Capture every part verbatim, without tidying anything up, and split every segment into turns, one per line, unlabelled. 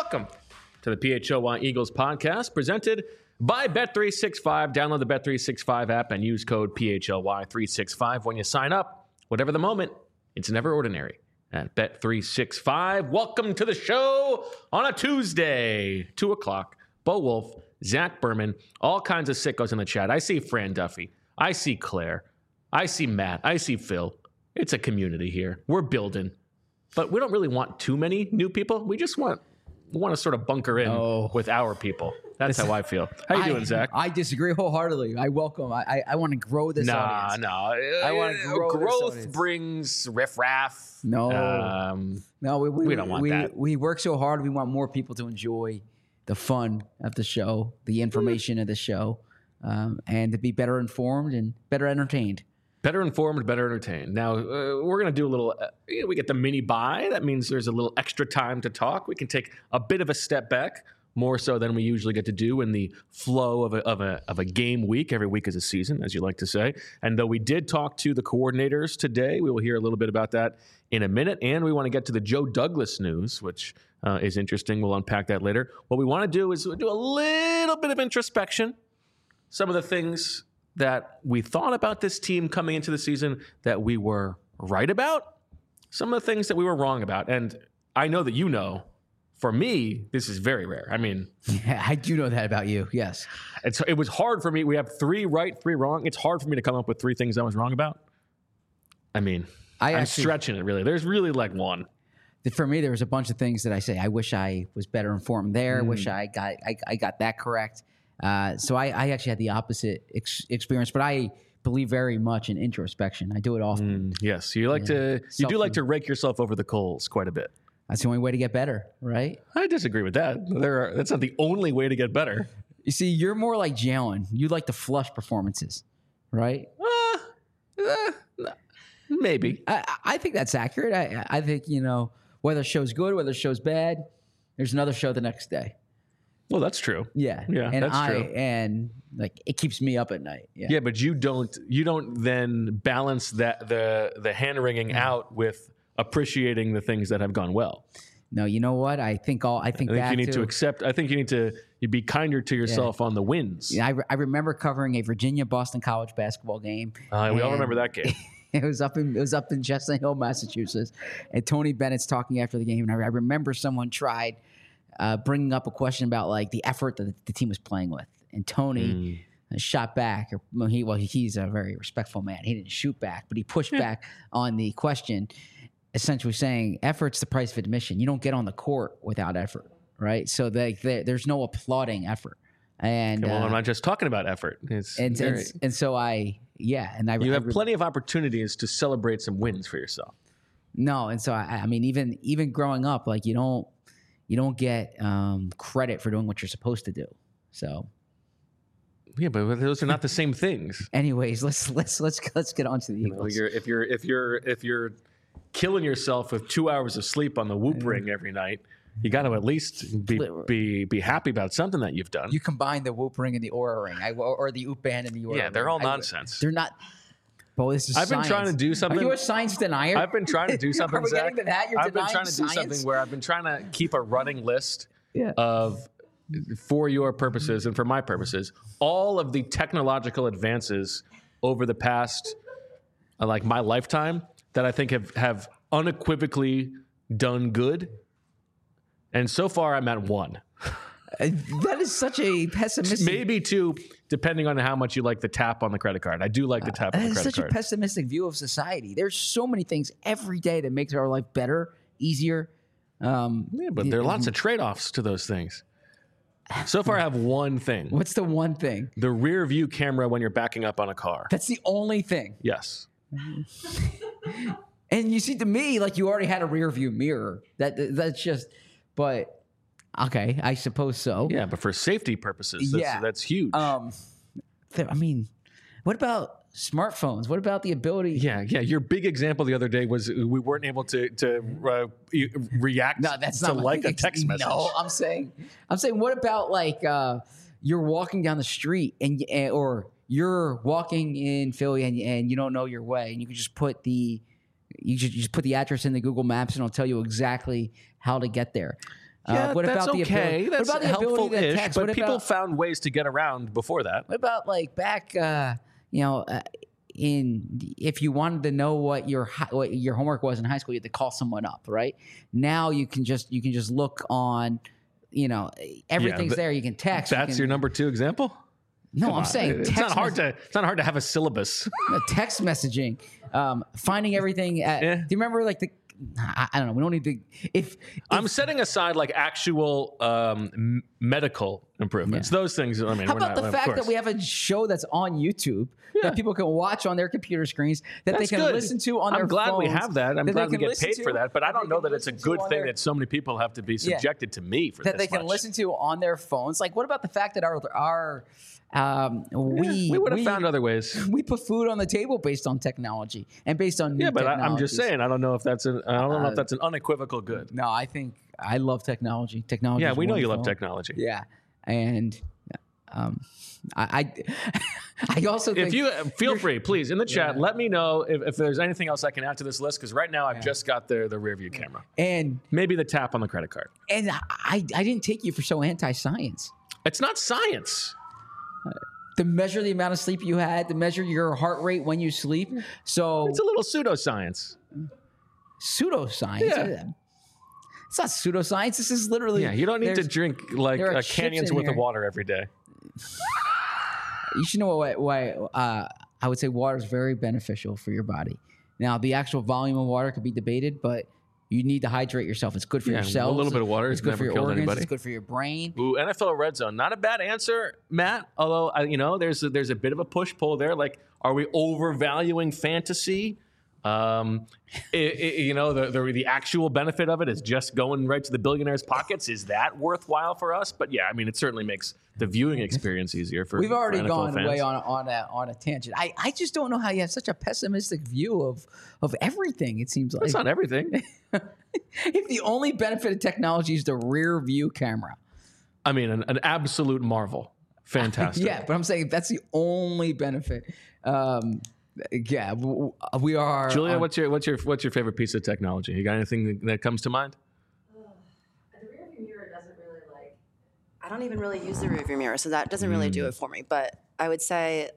Welcome to the P H O Y Eagles podcast presented by Bet three sixty-five. Download the Bet three sixty-five app and use code P H L Y three sixty-five when you sign up. Whatever the moment, it's never ordinary at Bet three sixty-five. Welcome to the show on a Tuesday, two o'clock. Bo Wolf, Zach Berman, all kinds of sickos in the chat. I see Fran Duffy. I see Claire. I see Matt. I see Phil. It's a community here. We're building. But we don't really want too many new people. We just want we want to sort of bunker in
oh.
with our people. That's how I feel. How you
I,
doing, Zach?
I disagree wholeheartedly. I welcome. I I, I want to grow this
nah,
audience.
Nah,
I want to grow
Growth
this
brings riffraff.
No,
um,
no, we, we,
we don't want
we,
that.
We work so hard. We want more people to enjoy the fun of the show, the information of the show, um, and to be better informed and better entertained.
Better informed, better entertained. Now, uh, we're going to do a little, uh, we get the mini bye. That means there's a little extra time to talk. We can take a bit of a step back, more so than we usually get to do in the flow of a, of a, of a game week. Every week is a season, as you like to say. And though we did talk to the coordinators today, we will hear a little bit about that in a minute. And we want to get to the Joe Douglas news, which uh, is interesting. We'll unpack that later. What we want to do is do a little bit of introspection. Some of the things that we thought about this team coming into the season that we were right about, some of the things that we were wrong about. And I know that you know, for me, this is very rare. I mean,
yeah, I do know that about you. Yes.
It's, it was hard for me. We have three right, three wrong. It's hard for me to come up with three things I was wrong about. I mean, I I'm actually, stretching it really. There's really like one.
For me, there was a bunch of things that I say, I wish I was better informed there.
Mm.
Wish I got, I, I got that correct. Uh, so I, I actually had the opposite ex- experience, but I believe very much in introspection. I do it often.
Mm, yes, you like yeah. to, you Self- do like to rake yourself over the coals quite a bit.
That's the only way to get better, right?
I disagree with that. There are, that's not the only way to get better.
You see, you're more like Jalen. You like to flush performances, right?
Uh, uh, maybe.
I, I think that's accurate. I, I think, you know, whether the show's good, whether the show's bad, there's another show the next day.
Well, that's true.
Yeah,
yeah,
and
that's
I,
true.
And like it keeps me up at night. Yeah,
yeah, but you don't. You don't then balance that the the hand wringing mm. out with appreciating the things that have gone well.
No, you know what? I think all. I think,
I think
back
you need
to,
to accept. I think you need to you be kinder to yourself yeah. on the wins.
Yeah, I, re- I remember covering a Virginia Boston College basketball game.
Uh, we all remember that game.
It was up in it was up in Chestnut Hill, Massachusetts, and Tony Bennett's talking after the game, and I, I remember someone tried. Uh, bringing up a question about like the effort that the, the team was playing with, and Tony mm. shot back. Or well, he well he's a very respectful man. He didn't shoot back, but he pushed yeah. back on the question, essentially saying, "Effort's the price of admission. You don't get on the court without effort, right? So they, they, there's no applauding effort." And
okay, well,
uh,
I'm not just talking about effort. It's
and,
very,
and and so I yeah, and I
you
I,
have
I,
plenty of opportunities to celebrate some wins for yourself.
No, and so I, I mean, even even growing up, like you don't. You don't get um, credit for doing what you're supposed to do. So,
yeah, but those are not the same things.
Anyways, let's let's let's let's get on to the Eagles.
You know, you're, if you're if you're if you're killing yourself with two hours of sleep on the Whoop yeah. Ring every night, you got to at least be, be be happy about something that you've done.
You combine the Whoop Ring and the Aura Ring, I, or the Oop Band and the Aura.
Yeah, they're
ring.
all nonsense.
I, they're not. Bo, this is
I've
science.
been trying to do something.
Are you a science denier?
I've been trying to do something,
Are we
Zach.
getting to that? You're
I've been
denying
trying to
science?
do something where I've been trying to keep a running list
yeah.
of, for your purposes and for my purposes, all of the technological advances over the past, uh, like my lifetime, that I think have, have unequivocally done good. And so far, I'm at one.
Uh, that is such a pessimistic.
Maybe two, depending on how much you like the tap on the credit card. I do like the tap uh, on the credit card.
That is such a pessimistic view of society. There's so many things every day that makes our life better, easier. Um,
yeah, but there are lots of trade-offs to those things. So far, I have one thing.
What's the one thing?
The rear view camera when you're backing up on a car.
That's the only thing.
Yes.
And you see, to me, like you already had a rear view mirror. That that's just, but. Okay, I suppose so.
Yeah, but for safety purposes, that's, yeah. that's huge.
Um, th- I mean, what about smartphones? What about the ability?
Yeah, yeah. Your big example the other day was we weren't able to to uh, react
no, that's
to
not
like a text message.
No, I'm saying, I'm saying, what about like uh, you're walking down the street and, and or you're walking in Philly and and you don't know your way, and you can just put the you just, you just put the address in the Google Maps and it'll tell you exactly how to get there.
Yeah,
uh, what
that's
about the
okay.
ability,
That's
what about the ability to
helpful-ish,
text?
but
What
people
about,
found ways to get around before that.
what about like back, uh, you know, uh, in if you wanted to know what your hi- what your homework was in high school, you had to call someone up, right? Now you can just you can just look on, you know, everything's
but
there. You can text. you
That's
can-
your number two example?
No,
Come
I'm
on.
saying
it's
text
not hard
mes-
to it's not hard to have a syllabus.
no, text messaging, um, finding everything. At,
Yeah.
Do you remember like the? I, I don't know. We don't need to. If,
I'm
if
setting aside like actual um, m- medical improvements. Those things. I mean,
how
we're
about
not,
the
of
fact that
course.
we have a show that's on YouTube
Yeah.
that people can watch on their computer screens that
That's
they can
good.
listen to on their
I'm glad we
phones,
have that. I'm
that
glad
they
we
can
get
listen
paid
to-
for that. But I
that they
don't know
can
that it's a
listen to
good
on
thing
their-
that so many people have to be
Yeah.
subjected to me for
that
this
they can
much.
listen to on their phones. Like, what about the fact that our our um, we
we would have
we,
found other ways.
we put food on the table based on technology and based on new
Yeah, but I, I'm just
technologies.
saying. I don't know if that's an. I don't know
Uh,
if that's an unequivocal good.
No, I think I love technology. Technology.
Yeah,
is
we know you love
wonderful.
technology.
Yeah, and um, I, I, I also think
If you uh, feel free, please in the chat,
Yeah.
let me know if, if there's anything else I can add to this list. Because right now I've just got the the rear view camera,
and
maybe the tap on the credit card.
and I I didn't take you for so anti-science.
It's not science.
To measure the amount of sleep you had, to measure your heart rate when you sleep. So
It's a little pseudoscience.
pseudoscience.
Yeah.
It's not pseudoscience. This is literally.
Yeah, you don't need to
there's-
drink like
there are
uh,
chips
canyons
in
worth of
here.
water every day.
You should know why. why uh, I would say water is very beneficial for your body. Now, the actual volume of water could be debated, but you need to hydrate yourself. It's good for
Yeah,
your
a
cells.
little bit of water
It's
has
good
never
for your
killed
organs.
anybody.
It's good for your brain.
Ooh, N F L Red Zone, not a bad answer, Matt. Although I, you know, there's a, there's a bit of a push pull there. Like, are we overvaluing fantasy? Um, i- i- you know, the, the the actual benefit of it is just going right to the billionaires' pockets. Is that worthwhile for us? But yeah, I mean, it certainly makes the viewing experience easier for.
We've already
for N F L
gone
fans.
way on on a, on a tangent. I, I just don't know how you have such a pessimistic view of of everything. It seems like
That's not everything.
if the only benefit of technology is the rear view camera.
I mean, an, an absolute marvel. Fantastic.
Yeah, but I'm saying if that's the only benefit. Um, yeah, w- w- we are.
Julia,
on-
what's your what's your what's your favorite piece of technology? You got anything that, that comes to mind?
The rearview mirror doesn't really like. I don't even really use the rearview mirror, so that doesn't really do it for me. But I would say,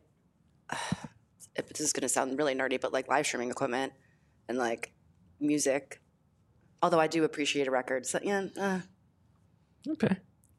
if this is going to sound really nerdy, but like live streaming equipment and like music. Although I do appreciate a record, so yeah. Uh,
Okay.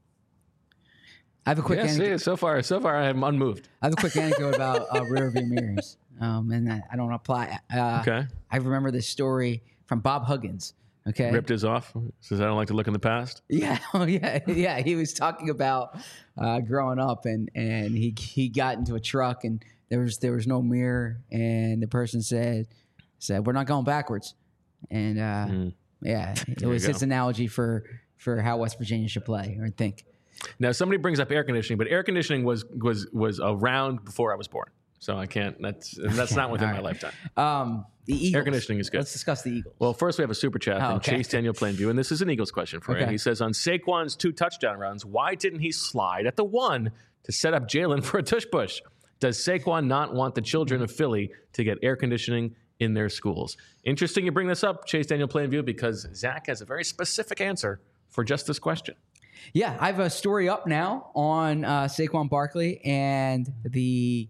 I have a quick
Yeah,
anecdote.
see, so far, so far, I'm unmoved.
I have a quick anecdote about uh, rear view mirrors, um, and I I don't apply. Uh,
Okay.
I remember this story from Bob Huggins. Okay,
Ripped his off. Says I don't like to look in the past.
Yeah, oh yeah, yeah. He was talking about uh, growing up, and and he he got into a truck, and there was there was no mirror, and the person said said we're not going backwards, and uh,
Mm.
yeah, it
you
was
go.
his analogy for for how West Virginia should play or think.
Now somebody brings up air conditioning, but air conditioning was was was around before I was born, so I can't. That's that's not within
all
my
right.
lifetime.
Um, the Eagles.
Air conditioning is good.
Let's discuss the Eagles.
Well, first we have a super chat
Oh,
from
okay.
Chase Daniel Plainview, and this is an Eagles question for you.
Okay.
He says on Saquon's two touchdown runs, why didn't he slide at the one to set up Jalen for a tush push? Does Saquon not want the children of Philly to get air conditioning in their schools? Interesting you bring this up, Chase Daniel Plainview, because Zach has a very specific answer for just this question.
Yeah, I have a story up now on uh, Saquon Barkley and the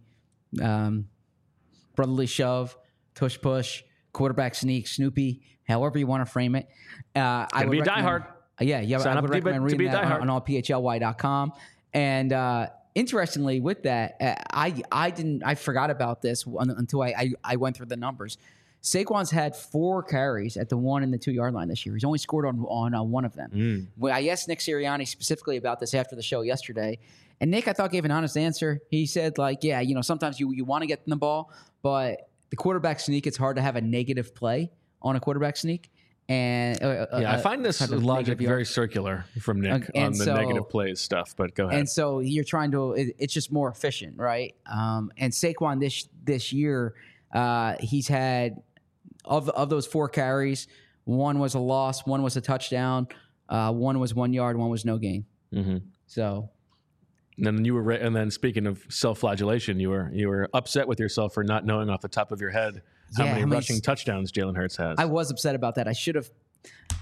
um, brotherly shove, tush push, quarterback sneak, Snoopy, however you want to frame it. Uh, I would
be a
recommend-
diehard.
Uh, yeah, yeah,
Sign
I
up
would
to be-
recommend
to
reading
be a
that on,
diehard.
on all p h l y dot com. And uh, interestingly, with that, uh, I I didn't I forgot about this un- until I, I I went through the numbers. Saquon's had four carries at the one and the two yard line this year. He's only scored on on uh, one of them.
Mm.
Well, I asked Nick Sirianni specifically about this after the show yesterday, and Nick I thought gave an honest answer. He said like, yeah, you know, sometimes you you want to get the ball, but the quarterback sneak, it's hard to have a negative play on a quarterback sneak. And uh,
Yeah,
uh,
I find this
type of
logic
negative yard.
very circular from Nick
Okay, and
on the
so-
negative plays stuff, but go ahead.
And so you're trying to, it, it's just more efficient, right? Um, and Saquon this this year, uh, he's had of of those four carries, one was a loss, one was a touchdown, uh, one was one yard, one was no gain.
hmm
So
And then you were, re- and then speaking of self-flagellation, you were you were upset with yourself for not knowing off the top of your head how
Yeah,
many
how many
rushing
s-
touchdowns Jalen Hurts has.
I was upset about that. I should have.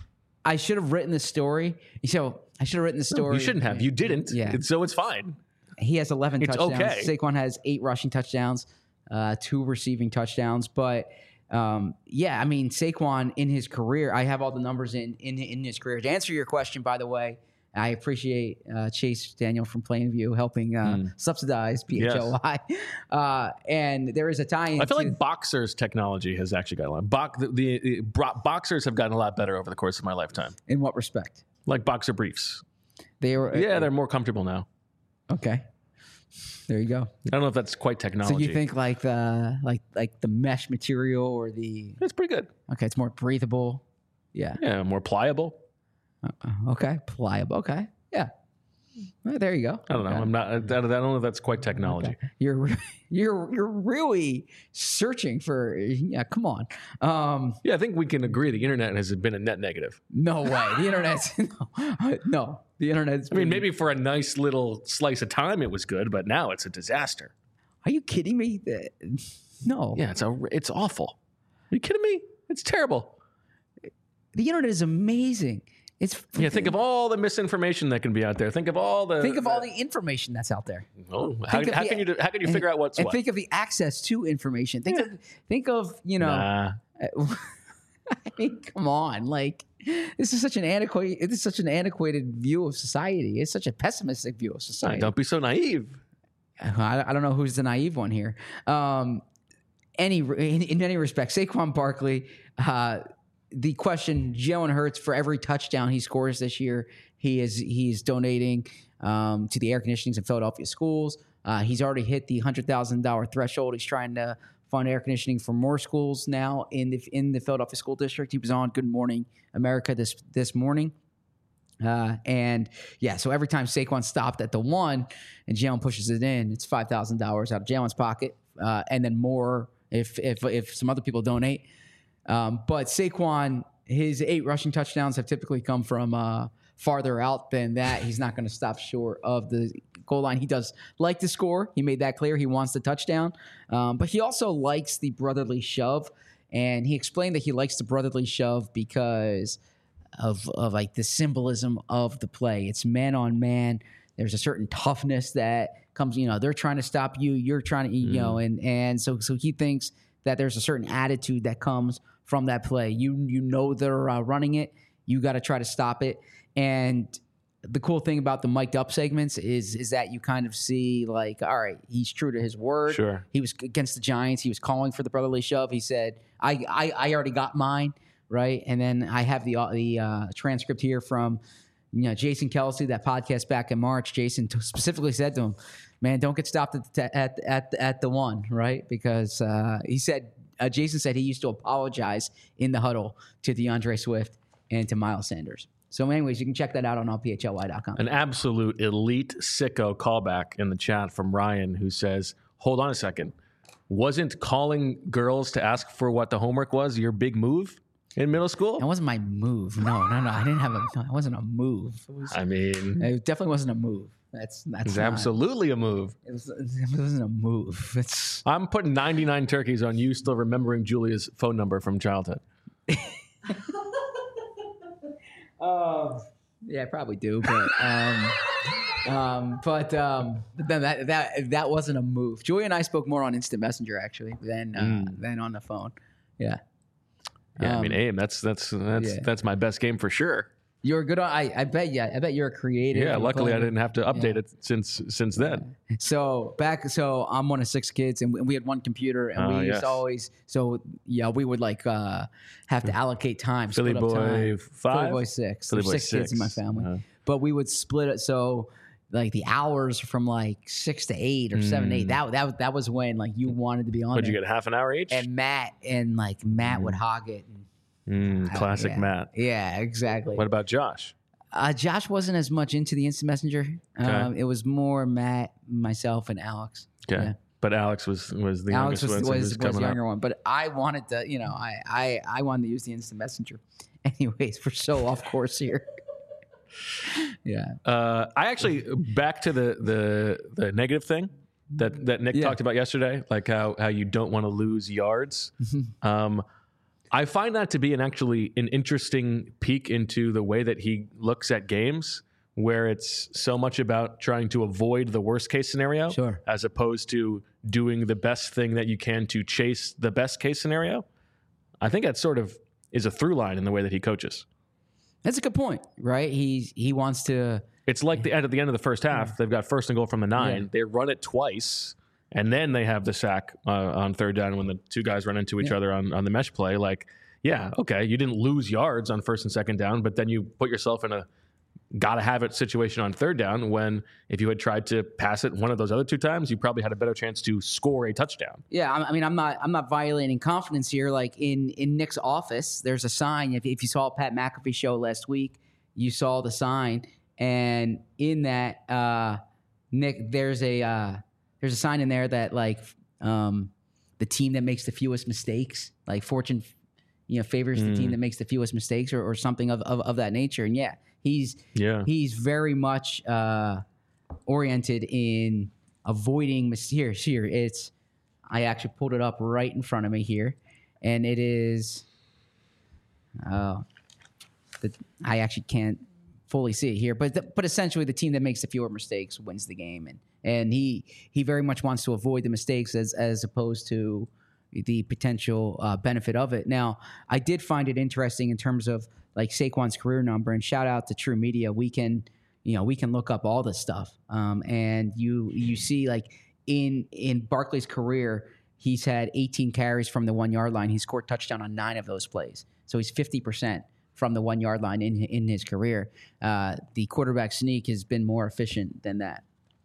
I should have written the story. So I should have written the story.
You shouldn't have. You didn't.
Yeah.
It's- So it's fine.
He has eleven
It's
touchdowns.
okay.
Saquon has eight rushing touchdowns, uh, two receiving touchdowns. But um, yeah, I mean, Saquon in his career, I have all the numbers in in, in his career. To answer your question, by the way, I appreciate uh, Chase Daniel from Plainview helping uh,
Mm.
subsidize P H L Y. Yes. Uh, and there is a tie-in.
I feel
to-
like boxers technology has actually gotten a lot. Bo- the, the, the bro- boxers have gotten a lot better over the course of my lifetime.
in what respect?
Like boxer briefs.
They were
Yeah, they're more comfortable now.
okay. There you go.
I don't know if that's quite technology.
So you think like the like like the mesh material or the
it's pretty good?
okay, it's more breathable. Yeah.
Yeah, more pliable.
Uh, okay, pliable. Okay, yeah. Well, there you go.
I don't know.
Okay.
I'm not. I don't know if that's quite technology.
Okay. You're you're you're really searching for. Yeah, come on. Um,
Yeah, I think we can agree the internet has been a net negative.
no way. The internet's no, no. The internet's.
I mean, maybe for a nice little slice of time it was good, but now it's a disaster.
Are you kidding me? The- No.
Yeah, it's a. It's awful. Are you kidding me? It's terrible.
The internet is amazing. It's
Yeah, think of all the misinformation that can be out there. Think of all the.
think of all the information that's out there.
Oh, how,
think of
how
the-
can you how can you figure out what's
and
what?
think of the access to information. Think of think of you know.
Nah.
I mean, come on, like this is such an antiquated. This is such an antiquated view of society. It's such a pessimistic view of society.
Don't be so naive.
I, I don't know who's the naive one here. Um, any in, in many respects, Saquon Barkley. Uh, the question: Jalen Hurts, for every touchdown he scores this year, he is he's donating um, to the air conditionings in Philadelphia schools. Uh, he's already hit the hundred thousand dollar threshold. He's trying to fund air conditioning for more schools now in the in the Philadelphia school district. He was on Good Morning America this this morning. Uh, and yeah, so every time Saquon stopped at the one and Jalen pushes it in, it's five thousand dollars out of Jalen's pocket, uh, and then more if if if some other people donate. Um, but Saquon, his eight rushing touchdowns have typically come from uh, farther out than that. He's not going to stop short of the goal line. He does like to score. He made that clear. He wants the touchdown, um, but he also likes the brotherly shove. And he explained that he likes the brotherly shove because of of like the symbolism of the play. It's man on man. There's a certain toughness that comes. You know, they're trying to stop you. You're trying to, you mm-hmm. know, and and so so he thinks that there's a certain attitude that comes from that play. You you know they're uh, running it. You got to try to stop it. And the cool thing about the mic'd up segments is is that you kind of see like, all right, he's true to his word.
Sure.
He was against the Giants. He was calling for the brotherly shove. He said, I I, I already got mine, right? And then I have the the uh, transcript here from you know Jason Kelsey, that podcast back in March. Jason t- specifically said to him, man, don't get stopped at the, at at at the one, right? Because uh, he said uh, Jason said he used to apologize in the huddle to DeAndre Swift and to Miles Sanders. So, anyways, you can check that out on all P H L Y dot com.
An absolute elite sicko callback in the chat from Ryan, who says, "Hold on a second, wasn't calling girls to ask for what the homework was your big move in middle school?"
That wasn't my move. No, no, no. I didn't have a. No, it wasn't a move. It, was,
I mean,
it definitely wasn't a move. That's that's
it's
not,
absolutely a move.
It, was, it wasn't a move. It's.
I'm putting ninety-nine turkeys on you still remembering Julia's phone number from childhood.
Um. Yeah, I probably do, but um, um, but um, but then that that that wasn't a move. Julia and I spoke more on Instant Messenger actually than uh,
Mm.
than on the phone. Yeah.
Yeah, I mean,
Um,
aim. That's that's that's
yeah.
that's my best game for sure.
You're good on. I I bet. Yeah, I bet you're a creative.
Yeah,
and
luckily I
clever.
didn't have to update
Yeah.
it since since then.
So back, so I'm one of six kids, and we, we had one computer, and
Oh,
we used
yes.
to always. So yeah, we would like uh, have to allocate time.
Philly
split up
boy
time.
five?
Philly boy six.
Philly
There's
boy
six, kids in my
six.
family,
Uh-huh.
but we would split it. So like the hours from like six to eight or seven to eight.
Mm.
That that that was when like you wanted to be on.
What'd you
there.
get? Half an hour each.
And Matt and like Matt would hog it. And,
Mm, classic
yeah.
Matt.
Yeah, exactly.
What about Josh?
Uh, Josh wasn't as much into the Instant Messenger. Um, it was more Matt, myself, and Alex.
Okay,
Yeah.
but Alex was was the
Alex
youngest
was
one, so he
was, was
coming
the younger
up.
one, but I wanted to, you know, I, I I wanted to use the Instant Messenger. Anyways, we're so off course here. yeah.
Uh, I actually back to the the the negative thing that that Nick
Yeah.
talked about yesterday, like how how you don't want to lose yards. Um, I find that to be an actually an interesting peek into the way that he looks at games, where it's so much about trying to avoid the worst case scenario,
Sure.
as opposed to doing the best thing that you can to chase the best case scenario. I think that sort of is a through line in the way that he coaches.
That's a good point, right? He's he wants to.
It's like the end at the end of the first half, they've got first and goal from the nine.
Yeah.
They run it twice, and then they have the sack uh, on third down when the two guys run into each
Yeah.
other on, on the mesh play. Like, yeah, okay, you didn't lose yards on first and second down, but then you put yourself in a gotta have it situation on third down when if you had tried to pass it one of those other two times, you probably had a better chance to score a touchdown.
Yeah, I I mean, I'm not I'm not violating confidence here. Like in in Nick's office, there's a sign. If if you saw Pat McAfee show last week, you saw the sign, and in that, uh, Nick, there's a uh, there's a sign in there that like um, the team that makes the fewest mistakes, like fortune, you know, favors the team that makes the fewest mistakes, or, or something of, of of that nature. And yeah, he's
Yeah.
he's very much uh, oriented in avoiding mis- here. Here, it's I actually pulled it up right in front of me here, and it is. Uh, the, I actually can't fully see it here, but the, but essentially, the team that makes the fewer mistakes wins the game, and and he he very much wants to avoid the mistakes as as opposed to the potential uh, benefit of it. Now, I did find it interesting in terms of like Saquon's career number, and shout out to True Media. We can, you know, we can look up all this stuff, um, and you you see like in in Barkley's career, he's had eighteen carries from the one yard line. He scored touchdown on nine of those plays, so he's fifty percent from the one yard line in in his career. Uh, the quarterback sneak has been more efficient than that.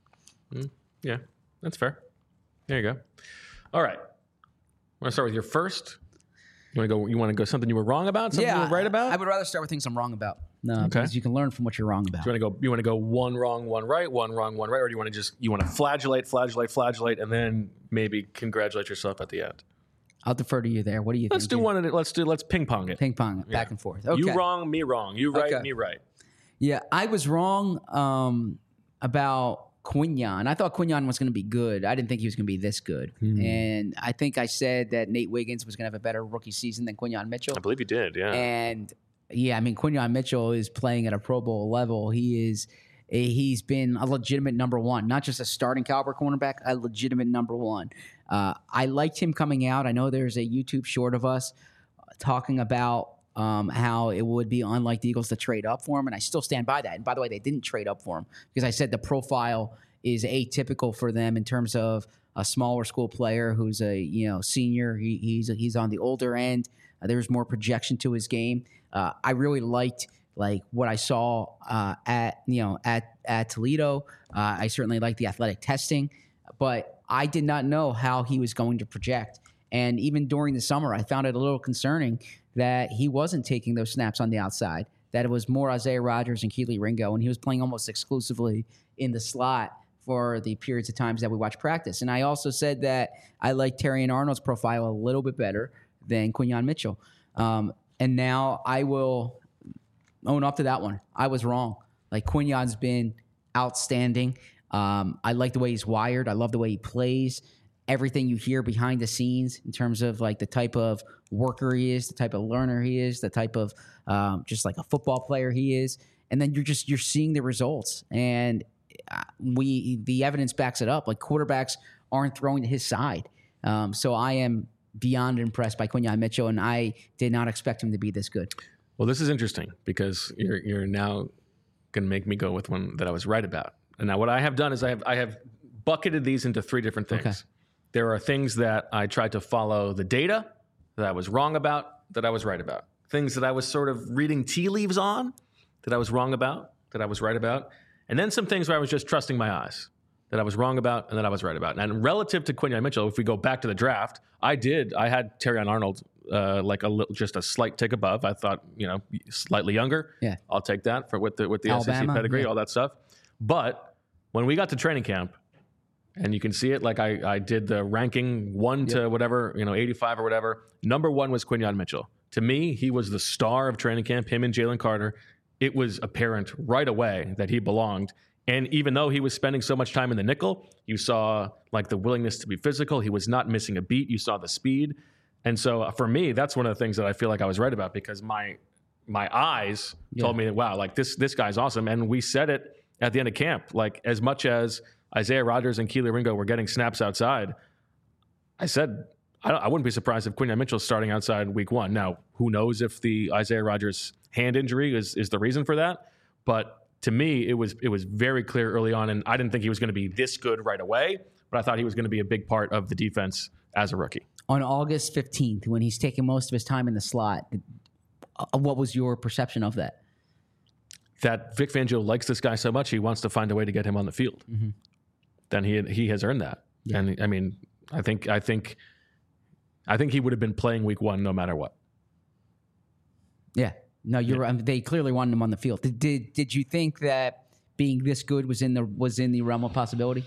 Mm, yeah, that's fair. There you go. All right. Want to start with your first? You want to go? You want to go something you were wrong about? Something you were right about?
I would rather start with things I'm wrong about. No,
Okay.
because you can learn from what you're wrong about.
Do you want to go? You want to go one wrong, one right, one wrong, one right, or do you want to just you want to flagellate, flagellate, flagellate, and then maybe congratulate yourself at the end?
I'll defer to you there. What do you
Let's
think?
do one. At it. Let's do. Let's ping pong it.
Ping pong, back and forth. Okay.
You wrong, me wrong. You right,
Okay.
me right.
Yeah, I was wrong um, about Quinyon. I thought Quinyon was going to be good. I didn't think he was going to be this good. And I think I said that Nate Wiggins was going to have a better rookie season than Quinyon Mitchell.
I believe you did. Yeah.
And yeah, I mean, Quinyon Mitchell is playing at a Pro Bowl level. He is, a, he's been a legitimate number one, not just a starting caliber cornerback, a legitimate number one. Uh, I liked him coming out. I know there's a YouTube short of us talking about um, how it would be unlike the Eagles to trade up for him, and I still stand by that. And by the way, they didn't trade up for him because I said the profile is atypical for them in terms of a smaller school player who's a you know senior. He, he's he's on the older end. Uh, there's more projection to his game. Uh, I really liked like what I saw uh, at you know at at Toledo. Uh, I certainly liked the athletic testing, but I did not know how he was going to project. And even during the summer, I found it a little concerning that he wasn't taking those snaps on the outside, that it was more Isaiah Rodgers and Keely Ringo, and he was playing almost exclusively in the slot for the periods of times that we watch practice. And I also said that I like Terrion Arnold's profile a little bit better than Quinyon Mitchell. Um, and now I will own up to that one. I was wrong. Like, Quinyon's been outstanding. Um, I like the way he's wired. I love the way he plays. Everything you hear behind the scenes in terms of like the type of worker he is, the type of learner he is, the type of um, just like a football player he is, and then you're just you're seeing the results, and uh, we the evidence backs it up. Like, quarterbacks aren't throwing to his side, um, so I am beyond impressed by Quinyon Mitchell, and I did not expect him to be this good.
Well, this is interesting because you're you're now going to make me go with one that I was right about. And now what I have done is I have I have bucketed these into three different things.
Okay.
There are things that I tried to follow the data that I was wrong about, that I was right about. Things that I was sort of reading tea leaves on, that I was wrong about, that I was right about. And then some things where I was just trusting my eyes, that I was wrong about and that I was right about. And relative to Quinyon Mitchell, if we go back to the draft, I did. I had Terrion Arnold uh, like a little, just a slight tick above. I thought, you know, slightly younger.
Yeah.
I'll take that for with the with the S E C
Alabama,
pedigree,
yeah.
all that stuff. But when we got to training camp, and you can see it, like I, I did the ranking one to whatever, you know, eighty-five or whatever. Number one was Quinyon Mitchell. To me, he was the star of training camp, him and Jalen Carter. It was apparent right away that he belonged. And even though he was spending so much time in the nickel, you saw like the willingness to be physical. He was not missing a beat. You saw the speed. And so for me, that's one of the things that I feel like I was right about, because my my eyes
Yeah.
told me that, wow, like this this guy's awesome. And we said it at the end of camp. Like, as much as Isaiah Rodgers and Keely Ringo were getting snaps outside, I said I, I wouldn't be surprised if Quinyon Mitchell's starting outside week one. Now, who knows if the Isaiah Rodgers hand injury is is the reason for that? But to me, it was it was very clear early on, and I didn't think he was going to be this good right away, but I thought he was going to be a big part of the defense as a rookie.
On August fifteenth, when he's taking most of his time in the slot, uh, what was your perception of that?
That Vic Fangio likes this guy so much, he wants to find a way to get him on the field. Mm-hmm. Then he he has earned that. Yeah. And I mean, I think I think I think he would have been playing week one no matter what.
Yeah. No, you're yeah. right. They clearly wanted him on the field. Did, did did you think that being this good was in the was in the realm of possibility?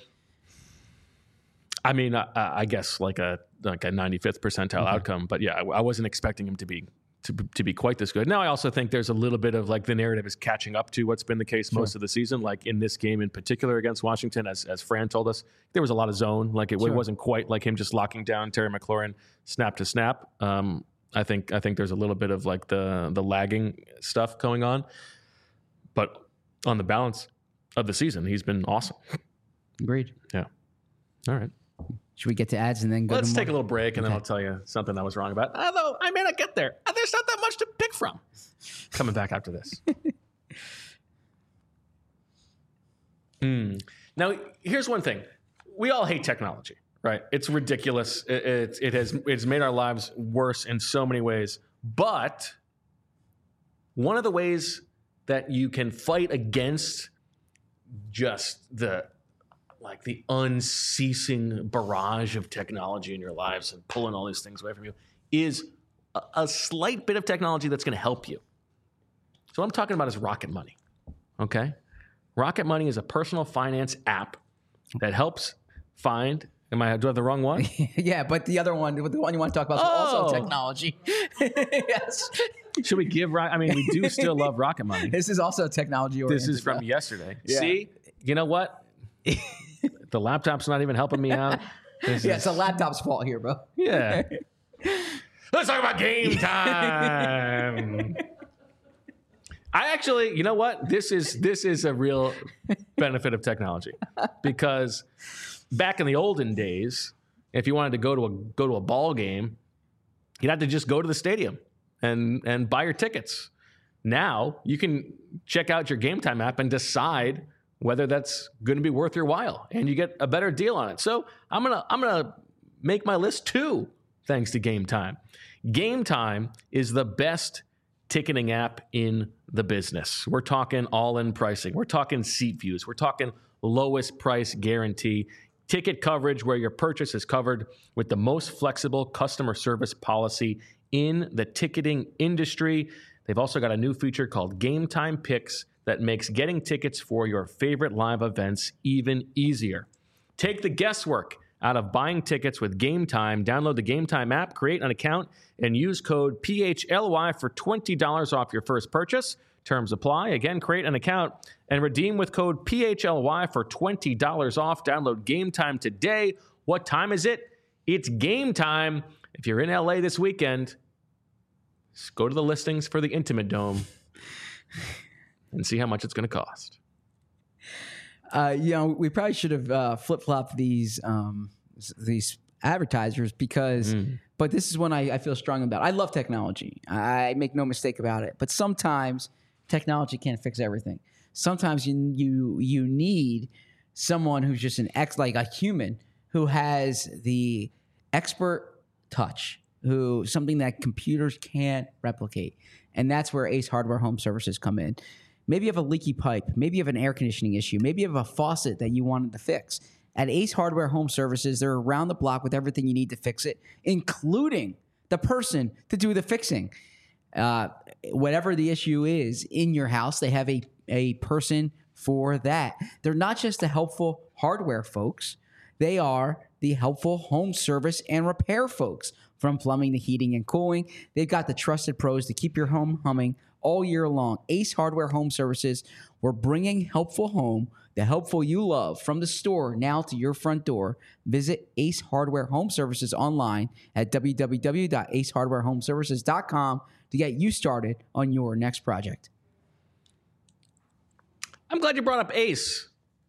I mean, I, I guess like a like a ninety-fifth percentile mm-hmm. outcome, but yeah, I, I wasn't expecting him to be to, to be quite this good. Now, I also think there's a little bit of like the narrative is catching up to what's been the case sure. most of the season. Like in this game in particular against Washington, as as Fran told us, there was a lot of zone. Like it, sure. it wasn't quite like him just locking down Terry McLaurin snap to snap. Um, I think I think there's a little bit of like the the lagging stuff going on, but on the balance of the season, he's been awesome.
Agreed.
Yeah. All right.
Should we get to ads and then go
Let's
to
take
more?
a little break, and okay. then I'll tell you something I was wrong about. Although I may not get there. There's not that much to pick from. Coming back after this. mm. Now, here's one thing. We all hate technology, right? It's ridiculous. It, it, it has it's made our lives worse in so many ways. But one of the ways that you can fight against just the like the unceasing barrage of technology in your lives and pulling all these things away from you is a, a slight bit of technology that's going to help you. So what I'm talking about is Rocket Money, okay? Rocket Money is a personal finance app that helps find, am I, do I have the wrong one?
Yeah, but the other one, the one you want to talk about is
oh.
also technology. Yes.
Should we give, I mean, we do still love Rocket Money.
This is also technology oriented.
This is from yesterday. Yeah. See, you know what? The laptop's not even helping me out. This
yeah,
is,
it's a laptop's fault here, bro.
Yeah. Let's talk about game time. I actually, you know what? This is this is a real benefit of technology, because back in the olden days, if you wanted to go to a go to a ball game, you'd have to just go to the stadium and and buy your tickets. Now you can check out your Game Time app and decide whether that's going to be worth your while, and you get a better deal on it. So I'm gonna I'm gonna make my list too, thanks to Game Time. Game Time is the best ticketing app in the business. We're talking all-in pricing. We're talking seat views. We're talking lowest price guarantee. Ticket coverage where your purchase is covered with the most flexible customer service policy in the ticketing industry. They've also got a new feature called Game Time Picks that makes getting tickets for your favorite live events even easier. Take the guesswork out of buying tickets with Game Time. Download the Game Time app, create an account, and use code P H L Y for twenty dollars off your first purchase. Terms apply. Again, create an account and redeem with code P H L Y for twenty dollars off. Download Game Time today. What time is it? It's game time. If you're in L A this weekend, just go to the listings for the Intimate Dome and see how much it's going to cost.
Uh, you know, we probably should have uh, flip-flopped these um, these advertisers because, mm. but this is one I, I feel strong about. I love technology. I make no mistake about it. But sometimes technology can't fix everything. Sometimes you you you need someone who's just an ex, like a human who has the expert touch, who something that computers can't replicate, and that's where Ace Hardware Home Services come in. Maybe you have a leaky pipe. Maybe you have an air conditioning issue. Maybe you have a faucet that you wanted to fix. At Ace Hardware Home Services, they're around the block with everything you need to fix it, including the person to do the fixing. Uh, whatever the issue is in your house, they have a, a person for that. They're not just the helpful hardware folks. They are the helpful home service and repair folks. From plumbing to heating and cooling, they've got the trusted pros to keep your home humming all year long. Ace Hardware Home Services, we're bringing helpful home, the helpful you love, from the store now to your front door. Visit Ace Hardware Home Services online at w w w dot ace hardware home services dot com to get you started on your next project.
I'm glad you brought up Ace,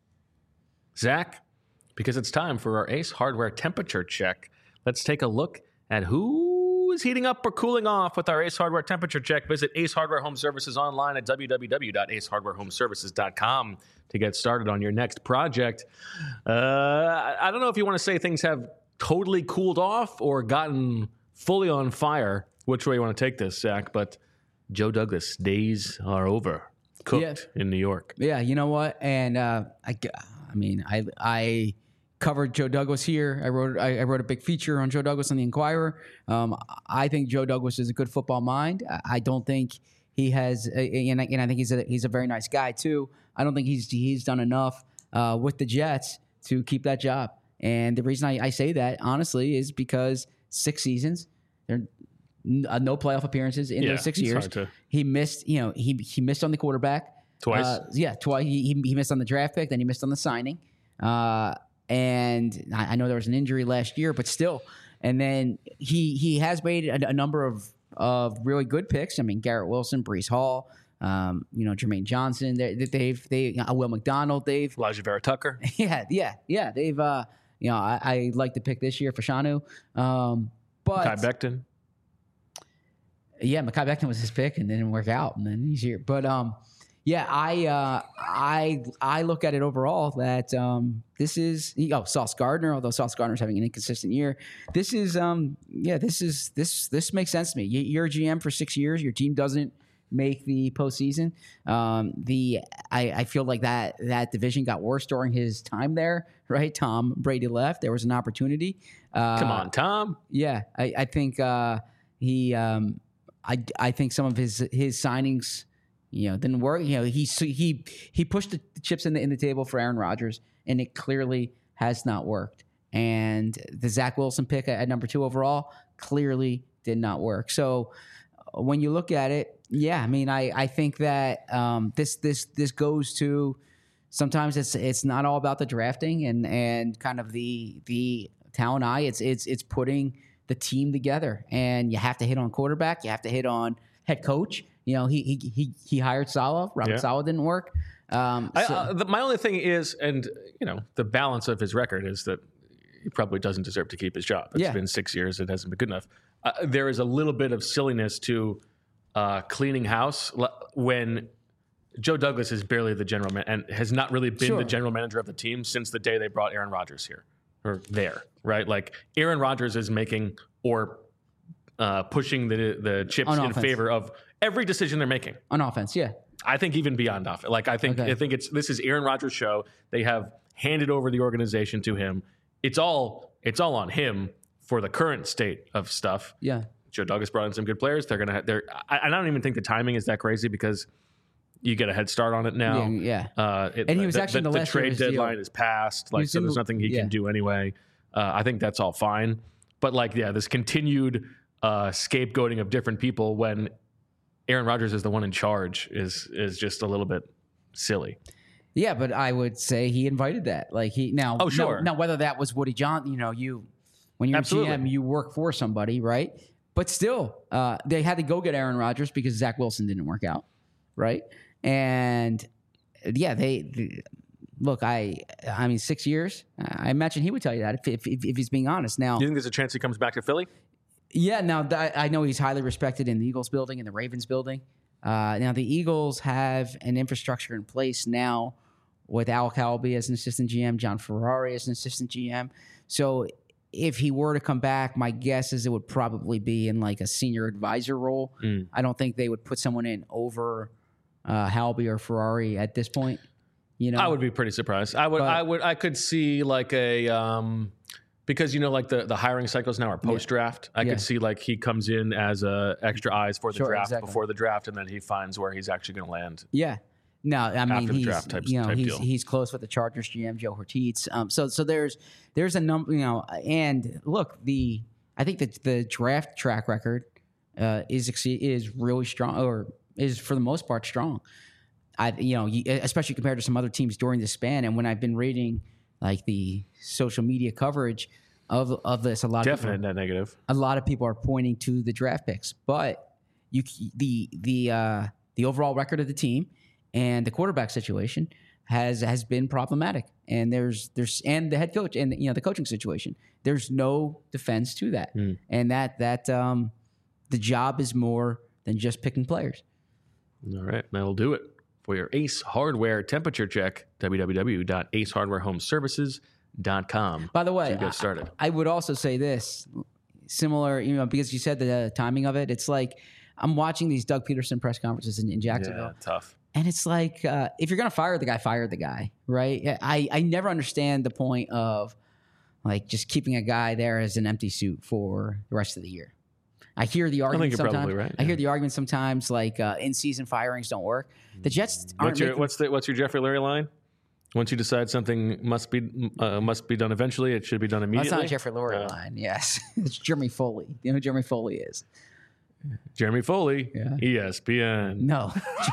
Zach, because it's time for our Ace Hardware temperature check. Let's take a look at who is heating up or cooling off with our Ace Hardware temperature check. Visit Ace Hardware Home Services online at w w w dot ace hardware home services dot com to get started on your next project. Uh, I don't know if you want to say things have totally cooled off or gotten fully on fire, which way you want to take this, Zach, but Joe Douglas, days are over. Cooked yeah. in New York.
Yeah, you know what? And uh, I, I mean, I I covered Joe Douglas here. I wrote I, I wrote a big feature on Joe Douglas on the Inquirer. Um, I think Joe Douglas is a good football mind. I, I don't think he has, and I, and I think he's a he's a very nice guy too. I don't think he's he's done enough uh, with the Jets to keep that job. And the reason I, I say that honestly is because six seasons, they're Uh, no playoff appearances in
yeah,
those six years.
To...
He missed, you know, he he missed on the quarterback
twice.
Uh, yeah, twice. He, he he missed on the draft pick, then he missed on the signing. Uh, and I, I know there was an injury last year, but still. And then he he has made a, a number of of really good picks. I mean, Garrett Wilson, Breece Hall, um, you know, Jermaine Johnson. They, they've they uh, Will McDonald. They've
Elijah Vera Tucker.
Yeah, yeah, yeah. They've uh, you know, I, I like to pick this year for Shanu. Um, but
Kai Becton.
Yeah, Mekhi Becton was his pick, and didn't work out, and then he's here. But um, yeah, I uh, I I look at it overall that um, this is oh Sauce Gardner, although Sauce Gardner's having an inconsistent year. This is um, yeah, this is this this makes sense to me. You're a G M for six years. Your team doesn't make the postseason. Um, the I, I feel like that that division got worse during his time there. Right, Tom Brady left. There was an opportunity. Uh,
Come on, Tom.
Yeah, I, I think uh, he. Um, I, I think some of his his signings, you know, didn't work. You know, he he he pushed the chips in the in the table for Aaron Rodgers, and it clearly has not worked. And the Zach Wilson pick at, at number two overall clearly did not work. So when you look at it, yeah, I mean, I I think that um, this this this goes to sometimes it's it's not all about the drafting and and kind of the the talent eye. It's it's it's putting the team together, and you have to hit on quarterback. You have to hit on head coach. You know, he he he, he hired Saleh. Robert
yeah.
Saleh didn't work. Um,
I,
so.
uh, the, my only thing is, and you know, the balance of his record is that he probably doesn't deserve to keep his job. It's
yeah.
been six years; it hasn't been good enough. Uh, there is a little bit of silliness to uh, cleaning house when Joe Douglas is barely the general man and has not really been
sure.
the general manager of the team since the day they brought Aaron Rodgers here. Or there, right? Like Aaron Rodgers is making or uh, pushing the the chips
on
in
offense.
favor of every decision they're making
on offense. Yeah,
I think even beyond offense. Like I think
okay.
I think it's this is Aaron Rodgers' show. They have handed over the organization to him. It's all it's all on him for the current state of stuff.
Yeah,
Joe Douglas brought in some good players. They're gonna they're I, I don't even think the timing is that crazy because you get a head start on it now.
Yeah,
yeah. Uh, it,
and he was
the,
actually
the,
in the,
the
last
trade deadline
deal.
is passed. Like so, there's
the,
nothing he
yeah.
can do anyway. Uh, I think that's all fine. But like, yeah, this continued uh, scapegoating of different people when Aaron Rodgers is the one in charge is is just a little bit silly.
Yeah, but I would say he invited that. Like he now.
Oh sure.
Now, now whether that was Woody Johnson, you know, you when you're
Absolutely.
a G M, you work for somebody, right? But still, uh, they had to go get Aaron Rodgers because Zach Wilson didn't work out, right? And yeah, they, they look. I, I mean, six years. I imagine he would tell you that if, if, if he's being honest. Now,
Do you think there's a chance he comes back to Philly?
Yeah. Now, th- I know he's highly respected in the Eagles building and the Ravens building. Uh, now, the Eagles have an infrastructure in place now with Al Calby as an assistant G M, John Ferrari as an assistant G M. So, if he were to come back, my guess is it would probably be in like a senior advisor role.
Mm.
I don't think they would put someone in over uh, Halby or Ferrari at this point. You know,
I would be pretty surprised. I would,
But-
I would, I could see like a um, because you know, like the, the hiring cycles now are post draft. I
Yeah.
could see like he comes in as a extra eyes for the
Sure,
draft
exactly.
before the draft, and then he finds where he's actually going to land.
Yeah. No, I mean
After the
he's
draft type-
you know
type
he's
deal.
he's close with the Chargers G M Joe Hortiz. Um, so so there's there's a number, you know, and look, the I think that the draft track record uh, is exce- is really strong or is for the most part strong. I, you know, you, especially compared to some other teams during the span. And when I've been reading like the social media coverage of of this, a lot
Definite
of people,
net negative.
a lot of people are pointing to the draft picks, but you the the uh, the overall record of the team and the quarterback situation has has been problematic. And there's there's and the head coach and you know the coaching situation. There's no defense to that,
Mm.
and that that um, the job is more than just picking players.
All right, that'll do it for your Ace Hardware temperature check. w w w dot ace hardware home services dot com.
By the way,
to get started.
I, I would also say this, similar, you know, because you said the timing of it. It's like I'm watching these Doug Peterson press conferences in, in Jacksonville.
Yeah, tough.
And it's like, uh, if you're going to fire the guy, fire the guy, right? I, I never understand the point of like just keeping a guy there as an empty suit for the rest of the year. I hear the argument
you're
sometimes.
probably right,
I
yeah.
hear the argument sometimes like uh, in-season firings don't work. The Jets aren't
What's your
making-
what's the what's your Jeffrey Lurie line? Once you decide something must be uh, must be done eventually, it should be done
Well,
immediately.
that's not a Jeffrey Lurie
Uh,
line. Yes, it's Jeremy Foley. You know who Jeremy Foley is?
Jeremy Foley,
Yeah.
E S P N.
No.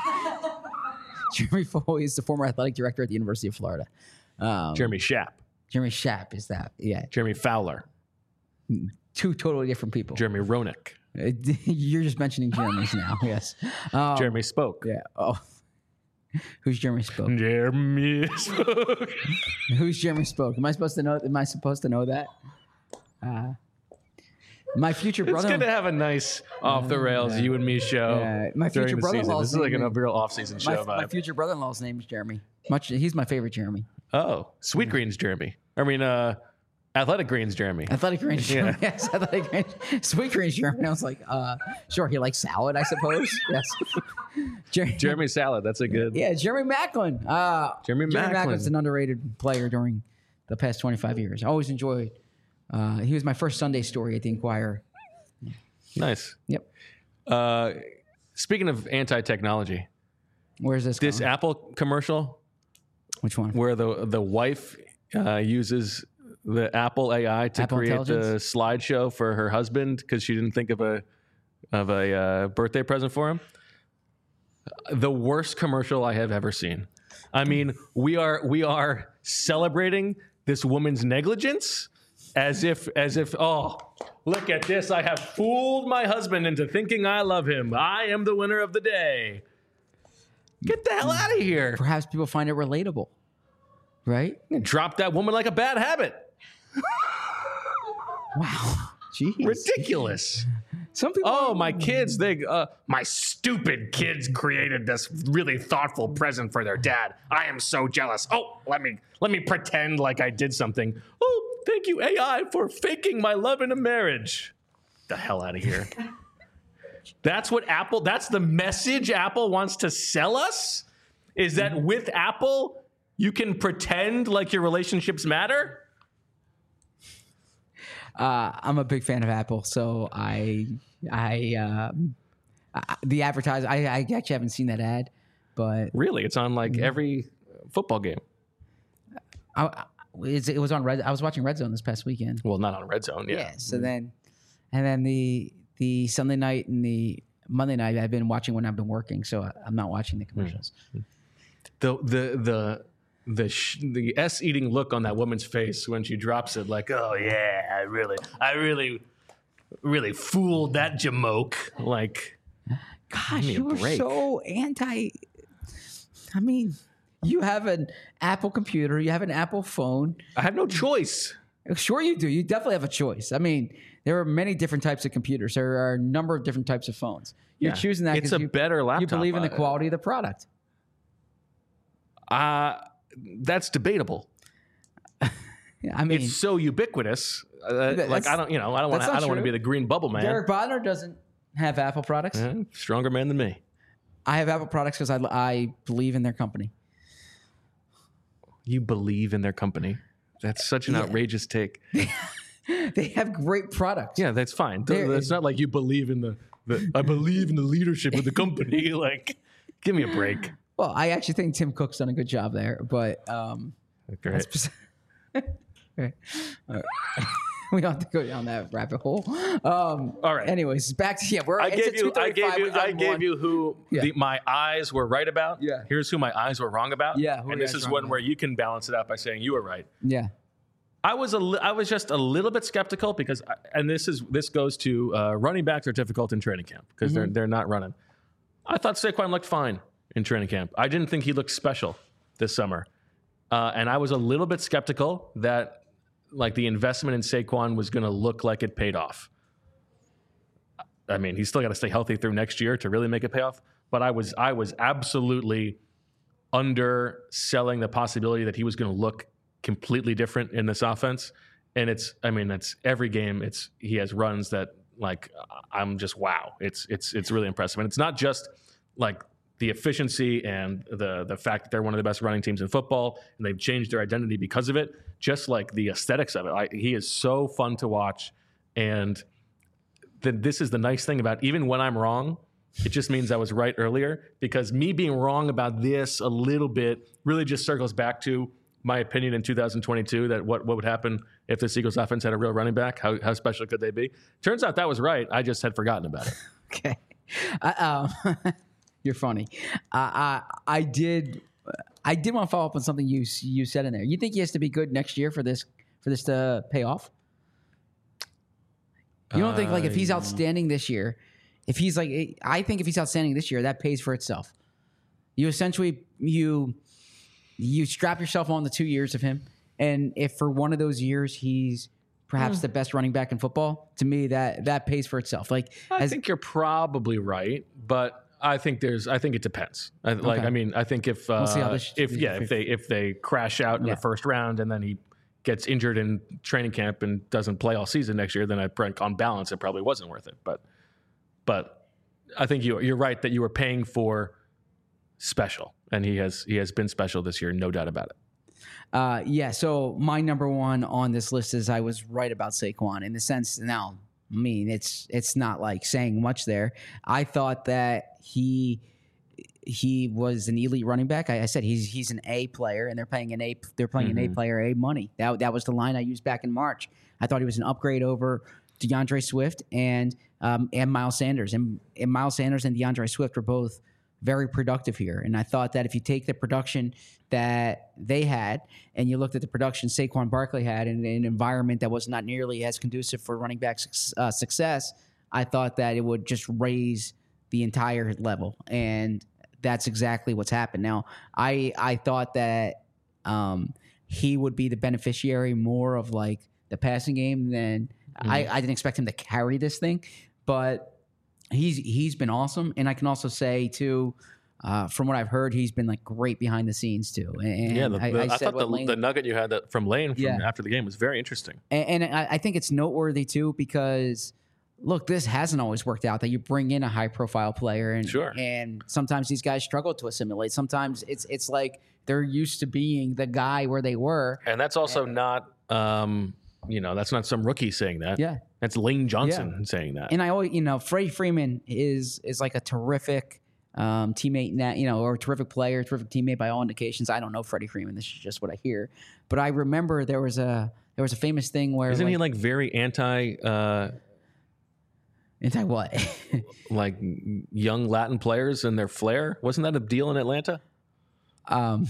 Jeremy Foley is the former athletic director at the University of Florida. Um,
Jeremy Schaap,
Jeremy Schaap is that. Yeah.
Jeremy Fowler,
Two totally different people.
Jeremy Roenick,
Uh, You're just mentioning Jeremy's now. Yes. Um,
Jeremy Spoke,
Yeah. Oh. Who's Jeremy Spoke?
Jeremy Spoke.
Who's Jeremy Spoke? Am I supposed to know? Am I supposed to know that? Uh, my future
It's
brother.
good to have a nice off the rails you and me show.
Yeah, my
during
future
the season.
brother-in-law's
This is like
name
a
is-
real off season
my,
show
my
vibe.
future brother-in-law's name is Jeremy. Much. He's my favorite Jeremy.
Oh, Sweet Greens Jeremy. I mean, uh, Athletic Greens Jeremy.
Athletic Greens,
Yeah.
Jeremy. Yes, Athletic Greens. Sweet Greens, Jeremy. I was like, uh, sure, he likes salad, I suppose. Yes. Jer-
Jeremy Salad. That's a good.
Yeah, Jeremy Macklin. Uh,
Jeremy Macklin.
Macklin's an underrated player during the past twenty-five years. I always enjoyed. Uh, he was my first Sunday story at the Inquirer.
Nice.
Yep.
Uh, speaking of anti-technology,
Where's this?
this
going?
Apple commercial
Which one?
where the the wife uh, uses the Apple A I to
Apple
create the
Intelligence?
slideshow for her husband because she didn't think of a of a uh, birthday present for him. The worst commercial I have ever seen. I mean, we are we are celebrating this woman's negligence as if as if oh, look at this, I have fooled my husband into thinking I love him. I am the winner of the day. Get the hell out of here.
Perhaps people find it relatable, right?
Drop that woman like a bad habit.
Wow. Jeez.
Ridiculous.
Some people.
Oh, my kids, they uh my stupid kids created this really thoughtful present for their dad. I am so jealous. Oh, let me let me pretend like I did something. Oh, thank you A I for faking my love in a marriage. The hell out of here. That's what Apple, that's the message Apple wants to sell us? Is that with Apple, you can pretend like your relationships matter?
Uh, I'm a big fan of Apple, so I, I, um, I the advertise. I, I actually haven't seen that ad, but
Really? It's on like every football game.
I, I- it's, it was on Red. I was watching Red Zone this past weekend.
Well, not on Red Zone, yeah.
Yeah. So then, and then the the Sunday night and the Monday night I've been watching when I've been working, so I, I'm not watching the commercials.
The the the the sh- the s eating look on that woman's face when she drops it, like, oh yeah, I really, I really, really fooled that jamoke. Like,
Gosh,
me a
you were
break.
so anti. I mean, you have an Apple computer, you have an Apple phone.
I have no choice.
Sure, you do. You definitely have a choice. I mean, there are many different types of computers. There are a number of different types of phones. You're
Yeah.
choosing that
It's
because
a
you,
better laptop.
you believe in the
Uh,
quality of the product.
Uh that's debatable.
Yeah, I mean,
It's so ubiquitous. Uh, like
that's-
I don't, you know, I don't want.
that's
I
not
don't want to
true.
be the green bubble man.
Derek Bodner doesn't have Apple products.
Eh, stronger man than me.
I have Apple products because I, I believe in their company.
You believe in their company. That's such an
Yeah.
outrageous take.
They have great products.
Yeah, that's fine.
There
It's
is-
not like you believe in the, the. I believe in the leadership of the company. Like, give me a break.
Well, I actually think Tim Cook's done a good job there, but um,
Great.
that's bes- Right. All right. we don't have to go down that rabbit hole. Um,
All right.
Anyways, back to yeah. We're
I
it's
gave
a
you, I
two thirty-five,
gave you,
we've done
I gave
one.
you who
Yeah.
the, my eyes were right about.
Yeah.
Here's who my eyes were wrong about.
Yeah, who
And
your
this
eyes
is
wrong
one
about.
where you can balance it out by saying you were right.
Yeah.
I was a, li- I was just a little bit skeptical because, I, and this is this goes to uh, running backs are difficult in training camp because
Mm-hmm.
they're they're not running. I thought Saquon looked fine in training camp. I didn't think he looked special this summer, uh, and I was a little bit skeptical that like the investment in Saquon was going to look like it paid off. I mean, he's still got to stay healthy through next year to really make it pay off. But I was I was absolutely underselling the possibility that he was going to look completely different in this offense. And it's, I mean, it's every game. It's he has runs that like I'm just wow. It's it's it's really impressive, and it's not just like the efficiency and the the fact that they're one of the best running teams in football, and they've changed their identity because of it. Just like the aesthetics of it, I, he is so fun to watch, and the, this is the nice thing about even when I'm wrong. It just means I was right earlier, because me being wrong about this a little bit really just circles back to my opinion in two thousand twenty-two that what, what would happen if the Eagles offense had a real running back. How, how special could they be? Turns out that was right. I just had forgotten about it.
Okay. I, um, you're funny. I, I I did I did want to follow up on something you you said in there. You think he has to be good next year for this for this to pay off? You don't think like if he's outstanding this year, if he's like I think if he's outstanding this year, that pays for itself. You essentially you you strap yourself on the two years of him, and if for one of those years he's perhaps mm. the best running back in football, to me that that pays for itself. Like
I
as,
think you're probably right, but I think there's I think it depends. I, like
okay.
I mean I think if uh,
we'll see how this,
if yeah if they if they crash out in
yeah.
the first round and then he gets injured in training camp and doesn't play all season next year, then I on balance it probably wasn't worth it. But but I think you you're right that you were paying for special, and he has he has been special this year, no doubt about it.
Uh, yeah. So my number one on this list is I was right about Saquon in the sense. Now, I mean, it's it's not like saying much there. I thought that he he was an elite running back. I, I said he's he's an A player, and they're paying an A they're playing mm-hmm. an A player A money. That that was the line I used back in March. I thought he was an upgrade over DeAndre Swift and um, and Miles Sanders, and, and Miles Sanders and DeAndre Swift were both very productive here. And I thought that if you take the production that they had and you looked at the production Saquon Barkley had in an environment that was not nearly as conducive for running back uh, success, I thought that it would just raise the entire level. And that's exactly what's happened. Now, I I thought that um, he would be the beneficiary more of like the passing game than mm-hmm. I, I didn't expect him to carry this thing, but He's he's been awesome, and I can also say too, uh, from what I've heard, he's been like great behind the scenes too. And
yeah, the, the, I,
I,
I thought the,
Lane,
the nugget you had that from Lane from
yeah.
after the game was very interesting,
and, and I, I think it's noteworthy too because look, this hasn't always worked out. That you bring in a high profile player, and
sure.
and sometimes these guys struggle to assimilate. Sometimes it's it's like they're used to being the guy where they were,
and that's also
and,
not. Um, You know, that's not some rookie saying that.
Yeah.
That's Lane Johnson
yeah.
saying that.
And I always, you know, Freddie Freeman is is like a terrific um, teammate, that, you know, or a terrific player, terrific teammate by all indications. I don't know Freddie Freeman. This is just what I hear. But I remember there was a there was a famous thing where
Isn't
like,
he like very anti uh,
anti what?
like young Latin players and their flair? Wasn't that a deal in Atlanta?
Um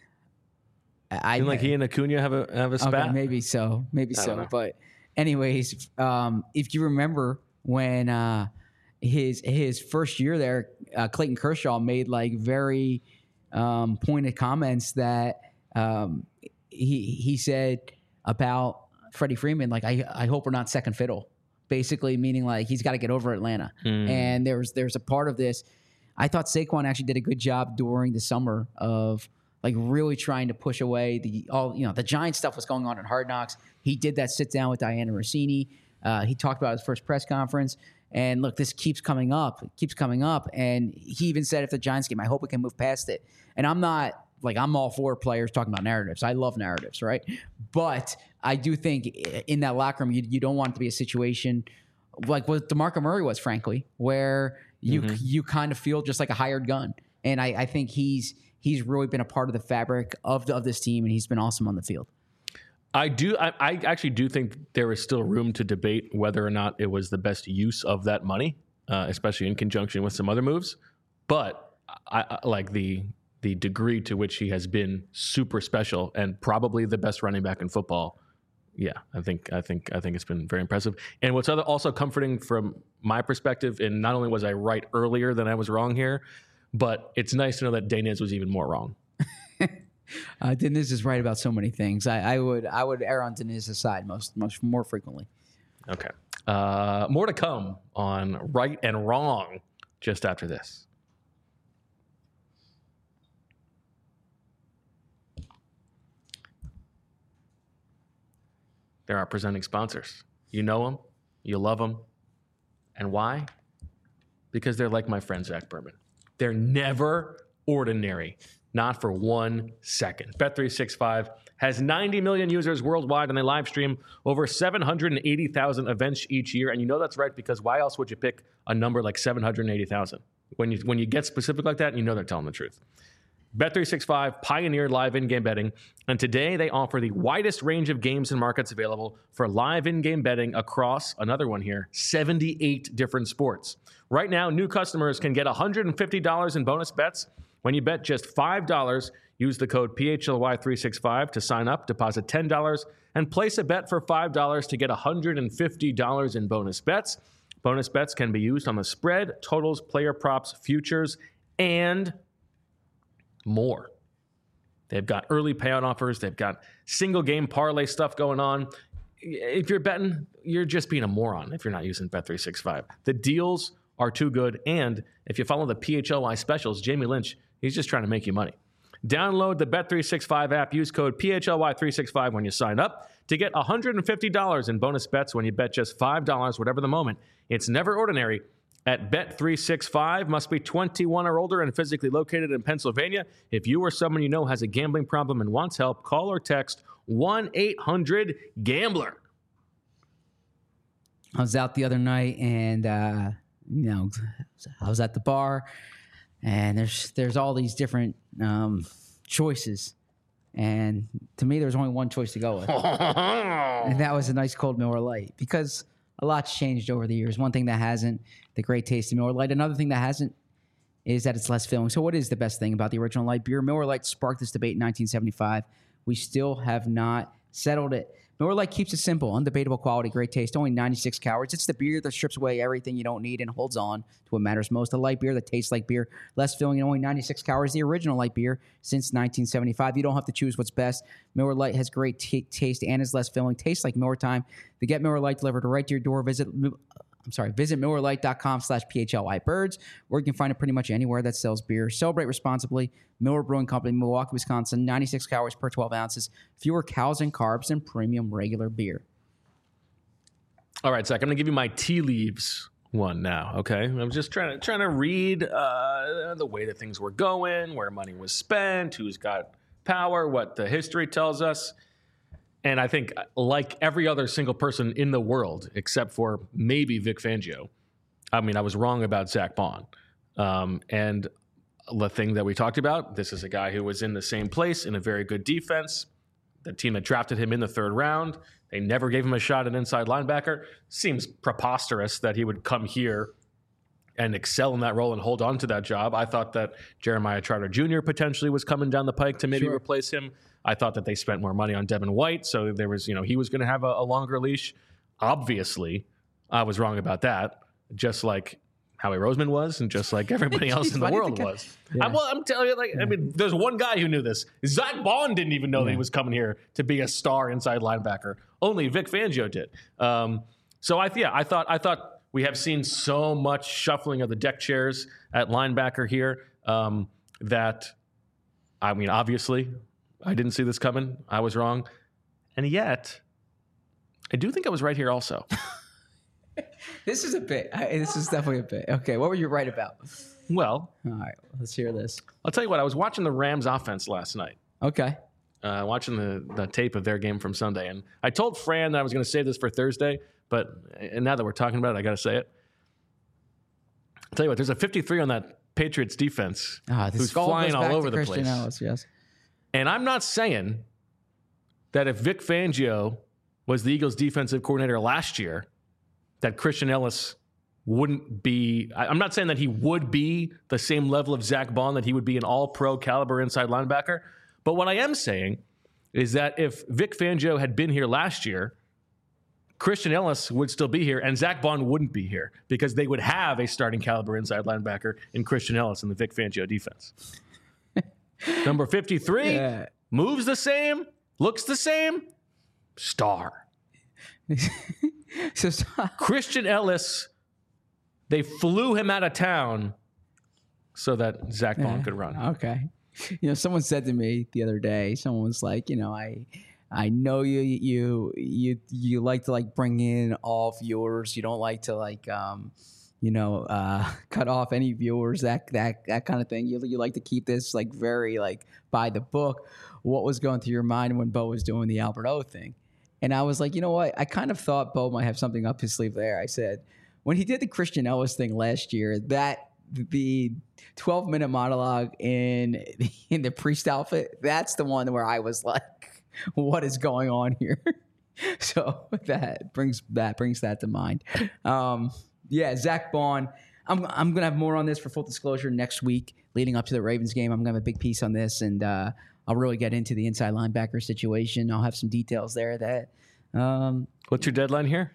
I
Didn't like he and Acuna have a have a spat.
Okay, maybe so, maybe
I
so. But anyways, um, if you remember when uh, his his first year there, uh, Clayton Kershaw made like very um, pointed comments that um, he he said about Freddie Freeman, like I I hope we're not second fiddle, basically meaning like he's got to get over Atlanta. Mm. And there's there's a part of this. I thought Saquon actually did a good job during the summer of. Like really trying to push away the all you know the Giant stuff was going on at Hard Knocks. He did that sit down with Diana Rossini. Uh, he talked about his first press conference. And look, this keeps coming up. It keeps coming up. And he even said, if the Giants game, I hope we can move past it. And I'm not like I'm all for players talking about narratives. I love narratives, right? But I do think in that locker room, you, you don't want it to be a situation like what DeMarco Murray was, frankly, where you mm-hmm. you kind of feel just like a hired gun. And I, I think he's. He's really been a part of the fabric of the, of this team, and he's been awesome on the field.
I do. I, I actually do think there is still room to debate whether or not it was the best use of that money, uh, especially in conjunction with some other moves. But I, I like the the degree to which he has been super special and probably the best running back in football. Yeah, I think I think I think it's been very impressive. And what's other, also comforting from my perspective, and not only was I right earlier than I was wrong here, but it's nice to know that Daniz was even more wrong.
uh, Deniz is right about so many things. I, I would I would err on Deniz's side most much more frequently.
Okay, uh, more to come on right and wrong just after this. They're our presenting sponsors. You know them, you love them, and why? Because they're like my friend Zach Berman. They're never ordinary, not for one second. Bet three sixty-five has ninety million users worldwide, and they live stream over seven hundred eighty thousand events each year. And you know that's right, because why else would you pick a number like seven hundred eighty thousand? When you, when you get specific like that, you know they're telling the truth. Bet three sixty-five pioneered live in-game betting, and today they offer the widest range of games and markets available for live in-game betting across, another one here, seventy-eight different sports. Right now, new customers can get one hundred fifty dollars in bonus bets when you bet just five dollars. Use the code P H L Y three sixty-five to sign up, deposit ten dollars, and place a bet for five dollars to get one hundred fifty dollars in bonus bets. Bonus bets can be used on the spread, totals, player props, futures, and more. They've got early payout offers. They've got single game parlay stuff going on. If you're betting, you're just being a moron if you're not using Bet three sixty-five. The deals are too good. And if you follow the P H L Y specials, Jamie Lynch, he's just trying to make you money. Download the Bet three sixty-five app. Use code P H L Y three sixty-five when you sign up to get one hundred fifty dollars in bonus bets when you bet just five dollars, whatever the moment. It's never ordinary. At Bet three sixty-five, must be twenty-one or older and physically located in Pennsylvania. If you or someone you know has a gambling problem and wants help, call or text one eight hundred gambler.
I was out the other night, and uh, you know, I was at the bar, and there's there's all these different um, choices, and to me, there's only one choice to go with, and that was a nice cold Miller Lite, because a lot's changed over the years. One thing that hasn't, the great taste of Miller Lite. Another thing that hasn't is that it's less filling. So what is the best thing about the original light beer? Miller Lite sparked this debate in nineteen seventy-five. We still have not settled it. Miller Lite keeps it simple, undebatable quality, great taste, only ninety-six calories. It's the beer that strips away everything you don't need and holds on to what matters most. A light beer that tastes like beer, less filling, and only ninety-six calories. The original light beer since nineteen seventy-five. You don't have to choose what's best. Miller Lite has great t- taste and is less filling. Tastes like Miller time. To get Miller Lite delivered right to your door, visit I'm sorry, visit Miller Lite dot com slash P H L Y birds, or you can find it pretty much anywhere that sells beer. Celebrate responsibly. Miller Brewing Company, Milwaukee, Wisconsin, ninety-six calories per twelve ounces, fewer calories and carbs than premium regular beer.
All right, Zach, I'm going to give you my tea leaves one now, okay? I'm just trying to trying to read uh, the way that things were going, where money was spent, who's got power, what the history tells us. And I think, like every other single person in the world, except for maybe Vic Fangio, I mean, I was wrong about Zach Bond. Um, and the thing that we talked about, this is a guy who was in the same place in a very good defense. The team that drafted him in the third round, they never gave him a shot at inside linebacker. Seems preposterous that he would come here and excel in that role and hold on to that job. I thought that Jeremiah Trotter Junior potentially was coming down the pike to maybe
Sure.
replace him. I thought that they spent more money on Devin White, so there was, you know, he was going to have a, a longer leash. Obviously, I was wrong about that, just like Howie Roseman was, and just like everybody else in the world was.
Yeah.
I'm, well, I'm telling you, like, yeah. I mean, there's one guy who knew this. Zach Bond didn't even know yeah. that he was coming here to be a star inside linebacker. Only Vic Fangio did. Um, so I, yeah, I thought, I thought we have seen so much shuffling of the deck chairs at linebacker here um, that, I mean, obviously, I didn't see this coming. I was wrong. And yet, I do think I was right here also.
This is a bit. I, this is definitely a bit. Okay, what were you right about?
Well,
all right, let's hear this.
I'll tell you what. I was watching the Rams offense last night.
Okay.
Uh, watching the, the tape of their game from Sunday. And I told Fran that I was going to save this for Thursday, but and now that we're talking about it, I got to say it. I'll tell you what, there's a fifty-three on that Patriots defense
ah,
who's flying all over the
Christian
place.
Ellis, yes.
And I'm not saying that if Vic Fangio was the Eagles defensive coordinator last year, that Christian Ellis wouldn't be, I'm not saying that he would be the same level of Zach Bond, that he would be an all-pro caliber inside linebacker. But what I am saying is that if Vic Fangio had been here last year, Christian Ellis would still be here and Zach Bond wouldn't be here because they would have a starting caliber inside linebacker in Christian Ellis in the Vic Fangio defense. Number fifty-three,
Yeah.
moves the same, looks the same, star.
So, so
Christian Ellis, they flew him out of town so that Zach Bond could run.
Okay. You know, someone said to me the other day, someone was like, you know, I I know you you you you like to like bring in all viewers. You don't like to like um you know, uh, cut off any viewers, that that that kind of thing. You you like to keep this like very like by the book. What was going through your mind when Bo was doing the Albert O thing? And I was like, you know what? I kind of thought Bo might have something up his sleeve there. I said, when he did the Christian Ellis thing last year, that the twelve minute monologue in in the priest outfit, that's the one where I was like, what is going on here? So that brings that brings that to mind. Um, yeah, Zach Bond. I'm I'm gonna have more on this for full disclosure next week, leading up to the Ravens game. I'm gonna have a big piece on this, and uh, I'll really get into the inside linebacker situation. I'll have some details there. That um,
What's your deadline here?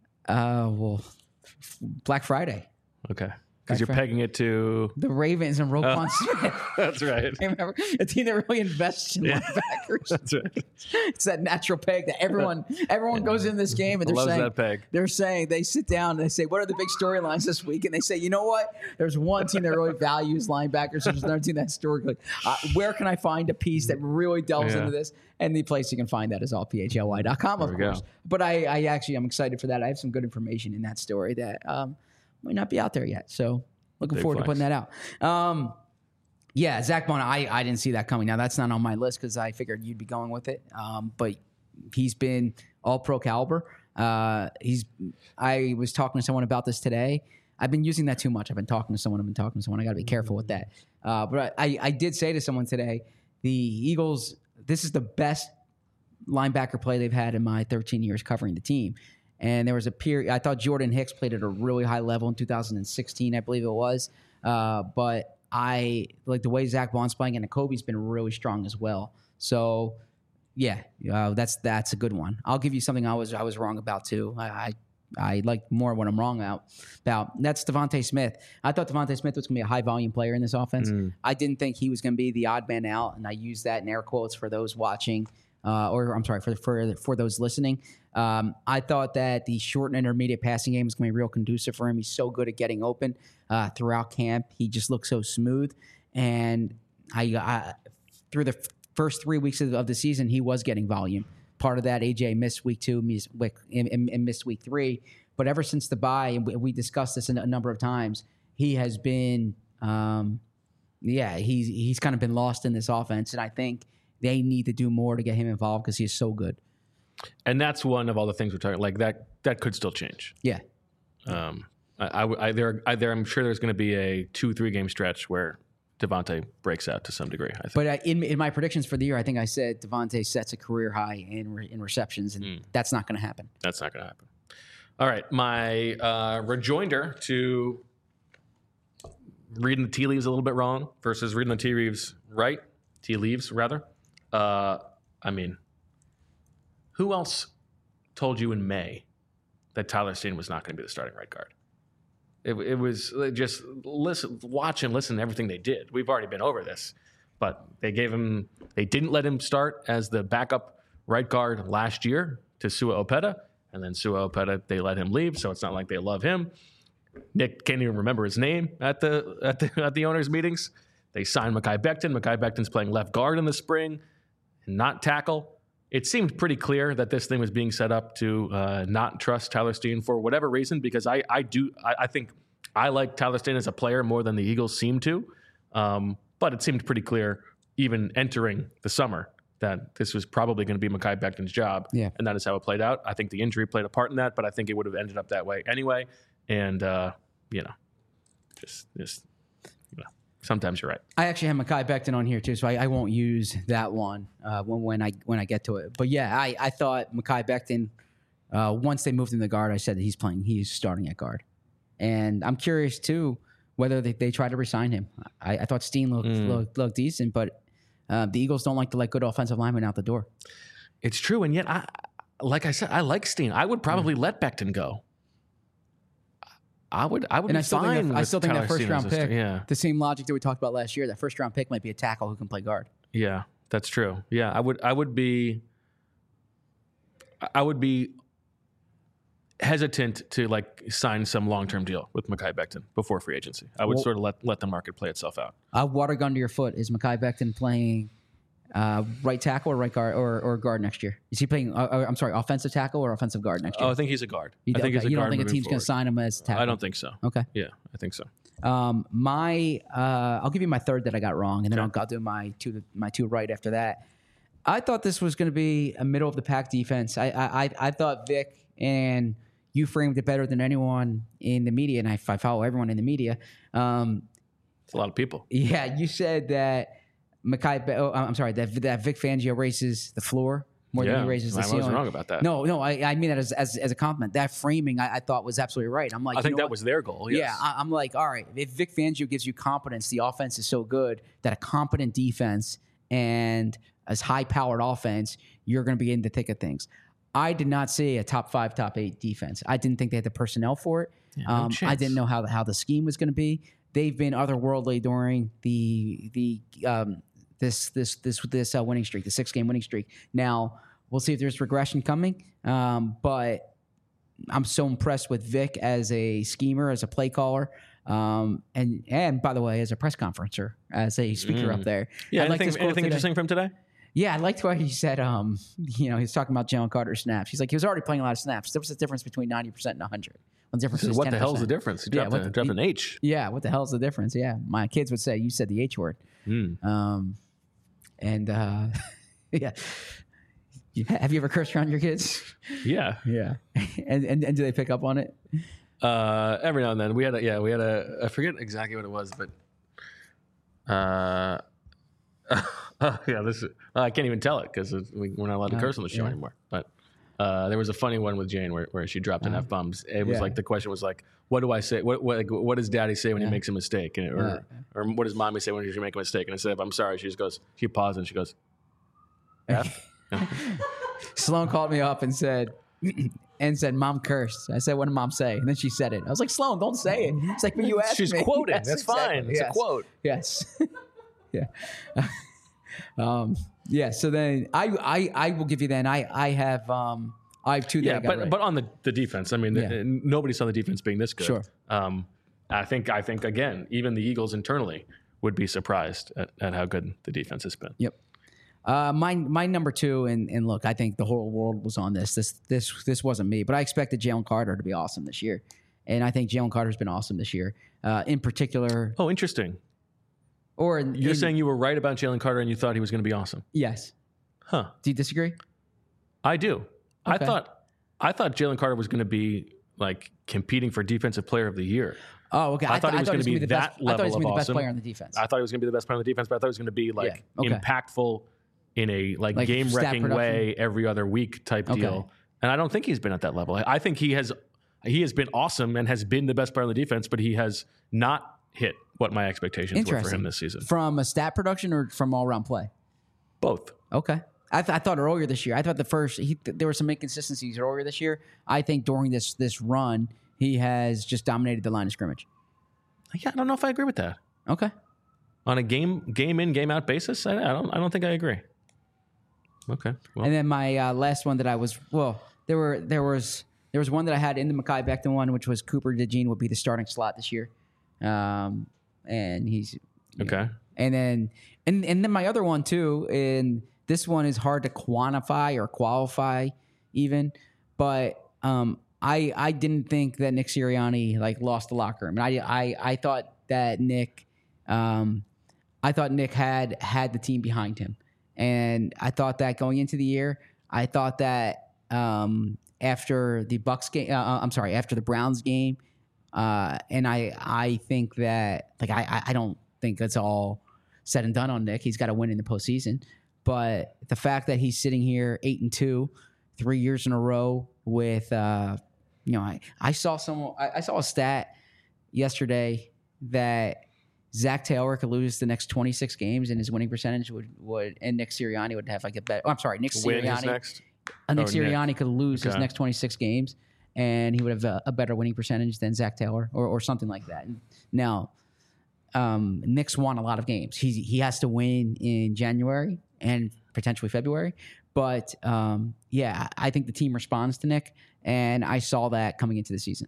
uh, well, Black Friday.
Okay. Because you're
Black Fri-
pegging it to.
The Ravens and Roquan
Oh.
Smith.
That's right.
Remember, a team that really invests in
Yeah.
linebackers.
That's right.
It's that natural peg that everyone everyone goes in this game and they're
Loves
saying
that peg.
they're saying they sit down and they say, what are the big storylines this week? And they say, you know what? There's one team that really values linebackers. There's another team that historically, uh, where can I find a piece that really delves
Yeah.
into this? And the place you can find that is all P H L Y dot com, of
There we
course.
go.
But I, I actually I'm excited for that. I have some good information in that story that um, might not be out there yet. So looking
Big
forward
flex.
to putting that out. Um, yeah, Zach Bond, I, I didn't see that coming. Now, that's not on my list because I figured you'd be going with it. Um, but he's been all pro caliber. Uh, he's. I was talking to someone about this today. I've been using that too much. I've been talking to someone. I've been talking to someone. I got to be careful with that. Uh, but I, I did say to someone today, the Eagles, this is the best linebacker play they've had in my thirteen years covering the team. And there was a period, I thought Jordan Hicks played at a really high level in two thousand sixteen, I believe it was. Uh, but I like the way Zach Bond's playing, and Kobe's been really strong as well. So, yeah, uh, that's that's a good one. I'll give you something I was I was wrong about too. I I, I like more what I'm wrong out about. That's Devontae Smith. I thought Devontae Smith was going to be a high volume player in this offense.
Mm.
I didn't think he was going to be the odd man out, and I use that in air quotes for those watching. Uh, or I'm sorry, for for for those listening. Um, I thought that the short and intermediate passing game was going to be real conducive for him. He's so good at getting open uh, throughout camp. He just looks so smooth. And I, I through the f- first three weeks of, of the season, he was getting volume. Part of that, A J missed week two, missed week, and, and, and missed week three. But ever since the bye, and we, we discussed this a, a number of times, he has been, um, yeah, he's he's kind of been lost in this offense. And I think they need to do more to get him involved because he is so good.
And that's one of all the things we're talking like that that could still change.
Yeah.
Um, I, I, I, there, I, there, I'm sure there's going to be a two, three game stretch where Devontae breaks out to some degree. I think.
But uh, in in my predictions for the year, I think I said Devontae sets a career high in re, in receptions, and
Mm.
that's not going to happen.
That's not going to happen. All right, my uh, rejoinder to reading the tea leaves a little bit wrong versus reading the tea leaves right, tea leaves rather. Uh, I mean, who else told you in May that Tyler Steen was not going to be the starting right guard? It, it was just listen, watch and listen to everything they did. We've already been over this, but they gave him, they didn't let him start as the backup right guard last year to Sua Opeta, and then Sua Opeta, they let him leave, so it's not like they love him. Nick can't even remember his name at the at the at the owners' meetings. They signed Mekhi Becton. Mekhi Becton's playing left guard in the spring, and not tackle. It seemed pretty clear that this thing was being set up to uh, not trust Tyler Steen for whatever reason, because I, I do I, I think I like Tyler Steen as a player more than the Eagles seem to. Um, but it seemed pretty clear, even entering the summer, that this was probably going to be Mekhi Becton's job.
Yeah.
And that is how it played out. I think the injury played a part in that, but I think it would have ended up that way anyway. And, uh, you know, just, just you know, sometimes you're right.
I actually have Mekhi Becton on here too, so I, I won't use that one uh, when when I when I get to it. But yeah, I, I thought Mekhi Becton. Uh, once they moved him to guard, I said that he's playing. He's starting at guard, and I'm curious too whether they, they try to resign him. I, I thought Steen looked, mm. looked looked decent, but uh, the Eagles don't like to let good offensive linemen out the door.
It's true, and yet, I like I said, I like Steen. I would probably mm. let Becton go. I would. I would.
And
be
I still
fine
think that, I still think
Tyler
that first
Steen
round
as a
pick.
st- yeah.
The same logic that we talked about last year. That first round pick might be a tackle who can play guard.
Yeah, that's true. Yeah, I would. I would be. I would be hesitant to like sign some long term deal with Mekhi Becton before free agency. I would
well,
sort of let let the market play itself out.
Uh, water gun to your foot. Is Mekhi Becton playing uh, right tackle or right guard or, or guard next year? Is he playing? Uh, I'm sorry, offensive tackle or offensive guard next year?
Oh, I think he's a guard.
You,
I think
okay.
he's a
you
guard.
don't think a team's going to sign him as a tackle?
I don't think so.
Okay.
Yeah, I think so.
Um, my uh, I'll give you my third that I got wrong, and then
Okay.
I'll, I'll do my two my two right after that. I thought this was going to be a middle of the pack defense. I I I thought Vic, and you framed it better than anyone in the media, and I, I follow everyone in the media. Um,
It's a lot of people.
Yeah, you said that Mekhi. Oh, I'm sorry, that that Vic Fangio raises the floor more
Yeah,
than he raises the
I
ceiling.
was wrong about that.
No, no, I, I mean that as, as as a compliment. That framing, I, I thought was absolutely right. I'm like,
I
you
think
know
that
what?
was their goal. Yes.
Yeah, I, I'm like, all right, if Vic Fangio gives you confidence, the offense is so good that a competent defense and as high-powered offense, you're going to be in the thick of things. I did not see a top five, top eight defense. I didn't think they had the personnel for it.
Yeah, no
um, I
chance.
didn't know how the, how the scheme was going to be. They've been otherworldly during the the um, this this this this uh, winning streak, the six-game winning streak. Now we'll see if there's regression coming, um, but I'm so impressed with Vic as a schemer, as a play caller, um, and and by the way, as a press conferencer, as a speaker
Mm.
up there.
Yeah.
I liked
Anything,
his quote
anything
today.
interesting from today?
Yeah, I liked what he said. Um, you know, he was talking about Jalen Carter's snaps. He's like, he was already playing a lot of snaps. There was a difference between ninety percent and one hundred. Well, the difference is
What
ten
the
percent.
hell's the difference? He
Yeah,
dropped,
what
a,
the-
dropped
he-
an H.
Yeah, what the hell's the difference? Yeah, my kids would say, you said the H word.
Mm.
Um, and uh, yeah. Yeah. Have you ever cursed around your kids?
Yeah.
Yeah. and, and and do they pick up on it?
Uh, every now and then we had a, yeah, we had a, I forget exactly what it was, but, uh, oh, yeah, this is, I can't even tell it because we, we're not allowed to
Uh,
curse on the show
yeah.
anymore. But uh, there was a funny one with Jane where, where she dropped an
Uh,
F bombs. It was
yeah.
like the question was like, what do I say? What what, like, what does Daddy say when
Yeah.
he makes a mistake? And, or
Yeah.
or what does Mommy say when she make a mistake? And instead of I'm sorry, she just goes, she paused and she goes, F.
Sloan called me up and said, and said, "Mom cursed." I said, "What did Mom say?" And then she said it. I was like, "Sloan, don't say it." It's like, but you asked
She's
me.
quoting.
Yes,
That's
exactly.
fine. It's
Yes.
a quote.
Yes. yeah. um, yeah. So then I, I, I will give you then. I, I have, um, I have two that
Yeah,
I got
but
right.
but on the, the defense, I mean,
Yeah.
uh, nobody saw the defense being this good.
Sure.
Um, I think I think again, even the Eagles internally would be surprised at, at how good the defense has been.
Yep. Uh, my my number two, and and look, I think the whole world was on this. This this this wasn't me, but I expected Jalen Carter to be awesome this year, and I think Jalen Carter's been awesome this year. Uh, in particular,
Oh, interesting.
or in,
You're
in-
saying you were right about Jalen Carter and you thought he was going to be awesome.
yes.
Huh.
Do you disagree?
I do. I
Okay.
thought I thought Jalen Carter was going to be like competing for Defensive Player of the Year.
Oh, okay.
I thought he was gonna be
the
that
best, I thought he was
level
gonna be
of
the best
awesome.
player on the defense.
I thought he was going to be the best player on the defense, but I thought he was going to be like
Yeah, okay.
impactful in a like,
Like
game wrecking
stat
way every other week type
Okay.
deal. And I don't think he's been at that level. I- I think he has he has been awesome and has been the best player on the defense, but he has not hit what my expectations were for
Interesting.
him this season.
From a stat production or from all around play?
Both.
Okay. I, th- I thought earlier this year. I thought the first he, th- there were some inconsistencies earlier this year. I think during this this run, he has just dominated the line of scrimmage.
Yeah, I don't know if I agree with that.
Okay.
On a game game in, game out basis, I, I don't I don't think I agree. Okay. Well,
And then my uh, last one that I was well, there were there was there was one that I had in the Mekhi Becton one, which was Cooper DeJean would be the starting slot this year, um, and he's
okay.
and then and and then my other one too, and this one is hard to quantify or qualify even, but um, I I didn't think that Nick Sirianni like lost the locker room. And I I I thought that Nick, um, I thought Nick had had the team behind him, and I thought that going into the year, I thought that um, after the Bucks game, uh, I'm sorry, after the Browns game, uh, and I I think that like I I- I don't. think it's all said and done on Nick. He's got to win in the postseason. But the fact that he's sitting here eight and two, three years in a row with, uh, you know, I, I saw someone, I, I saw a stat yesterday that Zach Taylor could lose the next twenty-six games and his winning percentage would, would and Nick Sirianni would have like a bet. Oh, I'm sorry, Nick
Win his
Sirianni.
next?
Uh, Nick
Oh,
Sirianni
Nick.
could lose his
Okay.
next twenty-six games and he would have a, a better winning percentage than Zach Taylor or, or something like that. And now, um, Nick's won a lot of games. He he has to win in January and potentially February. But um, yeah, I think the team responds to Nick, and I saw that coming into the season.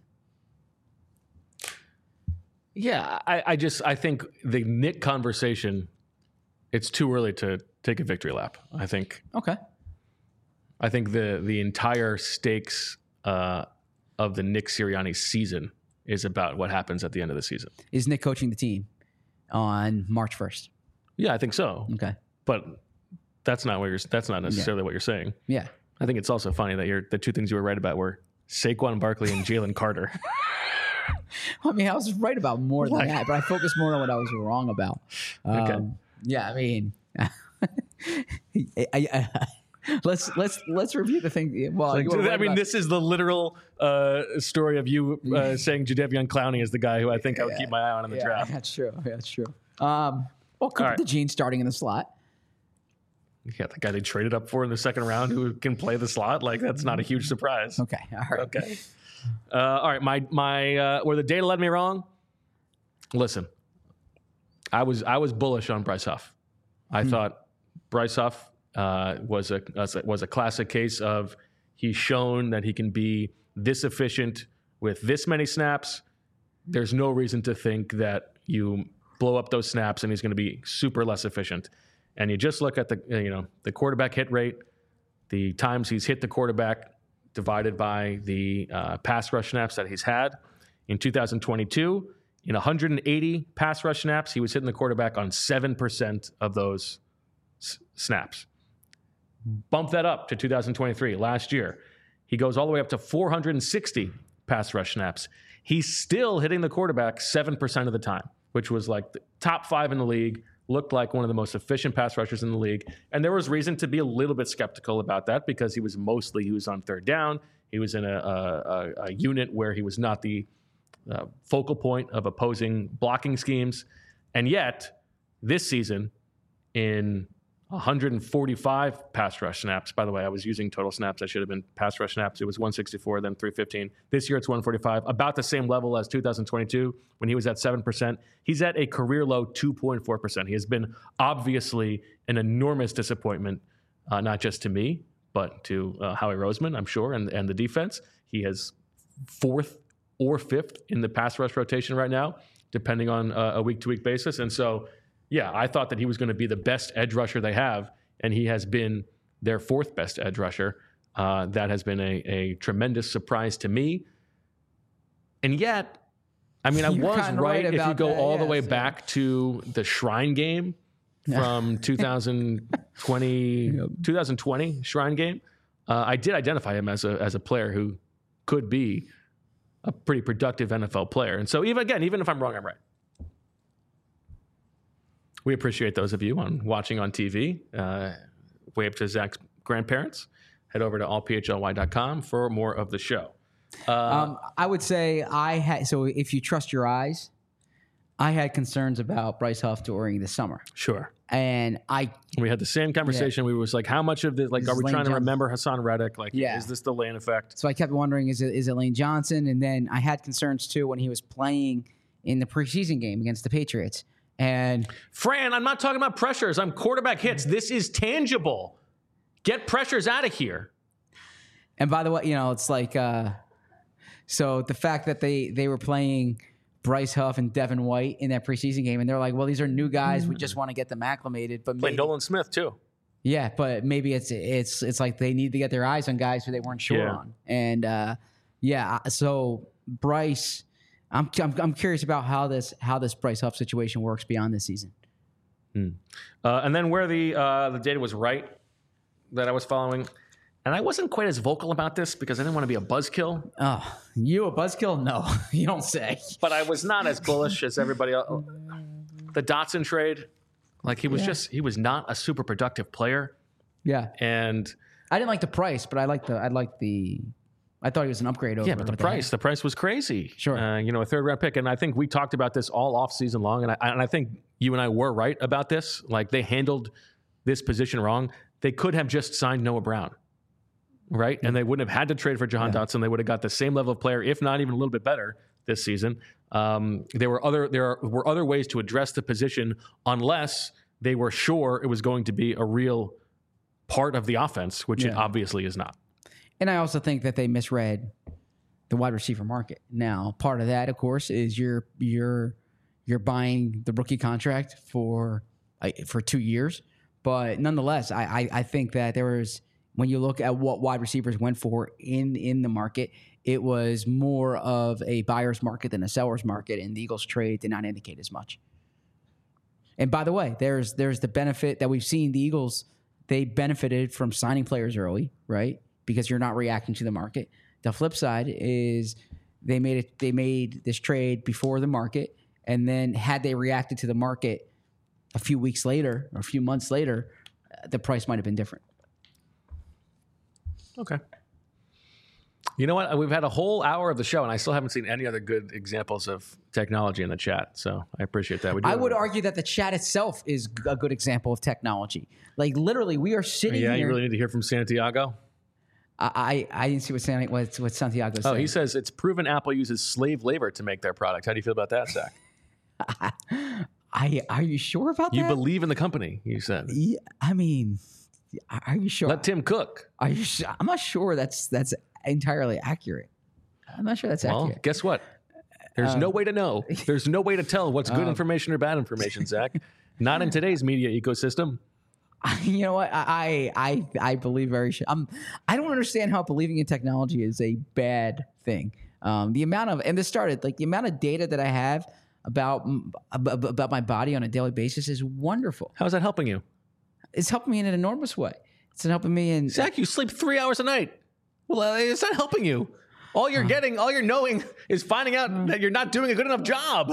Yeah, I, I just I think the Nick conversation, it's too early to take a victory lap. I think
Okay.
I think the the entire stakes uh, of the Nick Sirianni season is about what happens at the end of the season.
Is Nick coaching the team on March first?
Yeah, I think so.
Okay.
But that's not what you're. That's not necessarily what you're saying.
Yeah.
I think it's also funny that you're the two things you were right about were Saquon Barkley and Jalen Carter.
I mean, I was right about more than
Like-
that, but I focused more on what I was wrong about. Um,
Okay.
Yeah, I mean, I, I, let's let's let's review the thing. Well,
Like,
you were
I
right
mean,
about-
this is the literal uh, story of you uh, saying Jadeveon Clowney is the guy who I think I would keep my eye on in the
yeah,
draft.
that's true. Yeah, that's true. Um, well, Cooper
right.
DeJean starting in the slot.
Yeah, the guy they traded up for in the second round who can play the slot. Like, that's not a huge surprise.
Okay, all right.
Okay. Uh, all right, my my uh, where the data led me wrong. Listen, I was I was bullish on Bryce Huff. I thought Bryce Huff uh, was a was a classic case of he's shown that he can be this efficient with this many snaps. There's no reason to think that you blow up those snaps and he's going to be super less efficient. And you just look at the you know the quarterback hit rate, the times he's hit the quarterback divided by the uh, pass rush snaps that he's had. In two thousand twenty-two, in one hundred eighty pass rush snaps, he was hitting the quarterback on seven percent of those s- snaps. Bump that up to two thousand twenty-three, last year. He goes all the way up to four hundred sixty pass rush snaps. He's still hitting the quarterback seven percent of the time, which was like the top five in the league, looked like one of the most efficient pass rushers in the league. And there was reason to be a little bit skeptical about that because he was mostly, he was on third down. He was in a, a, a unit where he was not the uh, focal point of opposing blocking schemes. And yet, this season, in one hundred forty-five pass rush snaps, by the way, I was using total snaps. I should have been pass rush snaps. It was one sixty-four, then three fifteen. This year, it's one forty-five, about the same level as two thousand twenty-two when he was at seven percent. He's at a career low two point four percent. He has been obviously an enormous disappointment, uh, not just to me, but to uh, Howie Roseman, I'm sure, and, and the defense. He has fourth or fifth in the pass rush rotation right now, depending on uh, a week-to-week basis. And so, yeah, I thought that he was going to be the best edge rusher they have, and he has been their fourth best edge rusher. Uh, that has been a, a tremendous surprise to me. And yet, I mean, I
You're
was
kinda
right,
right
if you
about
go
that,
all the
yes,
way
yeah.
back to the Shrine game from two thousand twenty, twenty twenty Shrine game. Uh, I did identify him as a as a player who could be a pretty productive N F L player. And so, even again, even if I'm wrong, I'm right. We appreciate those of you on watching on T V. Uh, wave to Zach's grandparents. Head over to all p h l y dot com for more of the show. Uh,
Um, I would say I had. So if you trust your eyes, I had concerns about Bryce Huff during the summer,
sure.
and I
We had the same conversation. We was like, how much of this, like,
This
are
is
we
Lane
trying to
Johnson.
remember Hassan Reddick? Like,
Yeah.
is this the Lane effect?
so I kept wondering, is it is it Lane Johnson? And then I had concerns too when he was playing in the preseason game against the Patriots. And
Fran, I'm not talking about pressures. I'm quarterback hits. This is tangible. Get pressures out of here.
and by the way, you know, it's like uh, so the fact that they they were playing Bryce Huff and Devin White in that preseason game, and they're like, well, these are new guys. We just want to get them acclimated. But
Play
maybe,
Nolan Smith, too.
yeah, but maybe it's it's it's like they need to get their eyes on guys who they weren't sure
Yeah.
on. And uh, yeah, so Bryce, I'm, I'm I'm curious about how this how this Bryce Huff situation works beyond this season.
Uh, and then where the uh, the data was right that I was following, and I wasn't quite as vocal about this because I didn't want to be a buzzkill,
Oh, you a buzzkill? No, you don't say.
but I was not as bullish as everybody else. the Dotson trade, like he was
Yeah.
just he was not a super productive player,
Yeah.
and
I didn't like the price, but I liked the I liked the I thought he was an upgrade over
yeah, but the
what they had.
price the price was crazy.
Sure.
uh, you know, a third round pick, and I think we talked about this all off season long, and I and I think you and I were right about this. Like they handled this position wrong. They could have just signed Noah Brown, right? And they wouldn't have had to trade for Jahan
Yeah.
Dotson. They would have got the same level of player, if not even a little bit better, this season. Um, there were other there were other ways to address the position, unless they were sure it was going to be a real part of the offense, which it
Yeah.
obviously is not.
And I also think that they misread the wide receiver market. Now, part of that, of course, is you're you're you're buying the rookie contract for uh, for two years. But nonetheless, I, I I think that there was, when you look at what wide receivers went for in in the market, it was more of a buyer's market than a seller's market, and the Eagles trade did not indicate as much. And by the way, there's there's the benefit that we've seen. The Eagles, they benefited from signing players early, right? Because you're not reacting to the market. The flip side is they made it. They made this trade before the market, and then had they reacted to the market a few weeks later or a few months later, uh, the price might have been different.
Okay. You know what? We've had a whole hour of the show, and I still haven't seen any other good examples of technology in the chat. So I appreciate that. We do
I
have
would
a-
argue that the chat itself is a good example of technology. Like literally, we are sitting
Yeah,
here.
you really need to hear from Santiago.
I, I I didn't see what San, what, what Santiago said.
Oh, he says it's proven Apple uses slave labor to make their product. How do you feel about that, Zach?
I are you sure about
You
that?
believe in the company, you said.
Yeah, I mean, are you sure?
Let Tim cook.
Are you? Su- I'm not sure that's that's entirely accurate. I'm not sure that's
Well,
accurate.
guess what? There's
Um,
no way to know. There's no way to tell what's good information or bad information, Zach. Not in today's media ecosystem.
You know what? I I I believe very. Sh- I'm. I don't understand how believing in technology is a bad thing. Um, the amount of and this started like the amount of data that I have about m- ab- about my body on a daily basis is wonderful.
How's that helping you?
It's helping me in an enormous way. It's helping me in.
Zach, you sleep three hours a night. Well, uh, it's not helping you. All you're getting, all you're knowing is finding out that you're not doing a good enough job.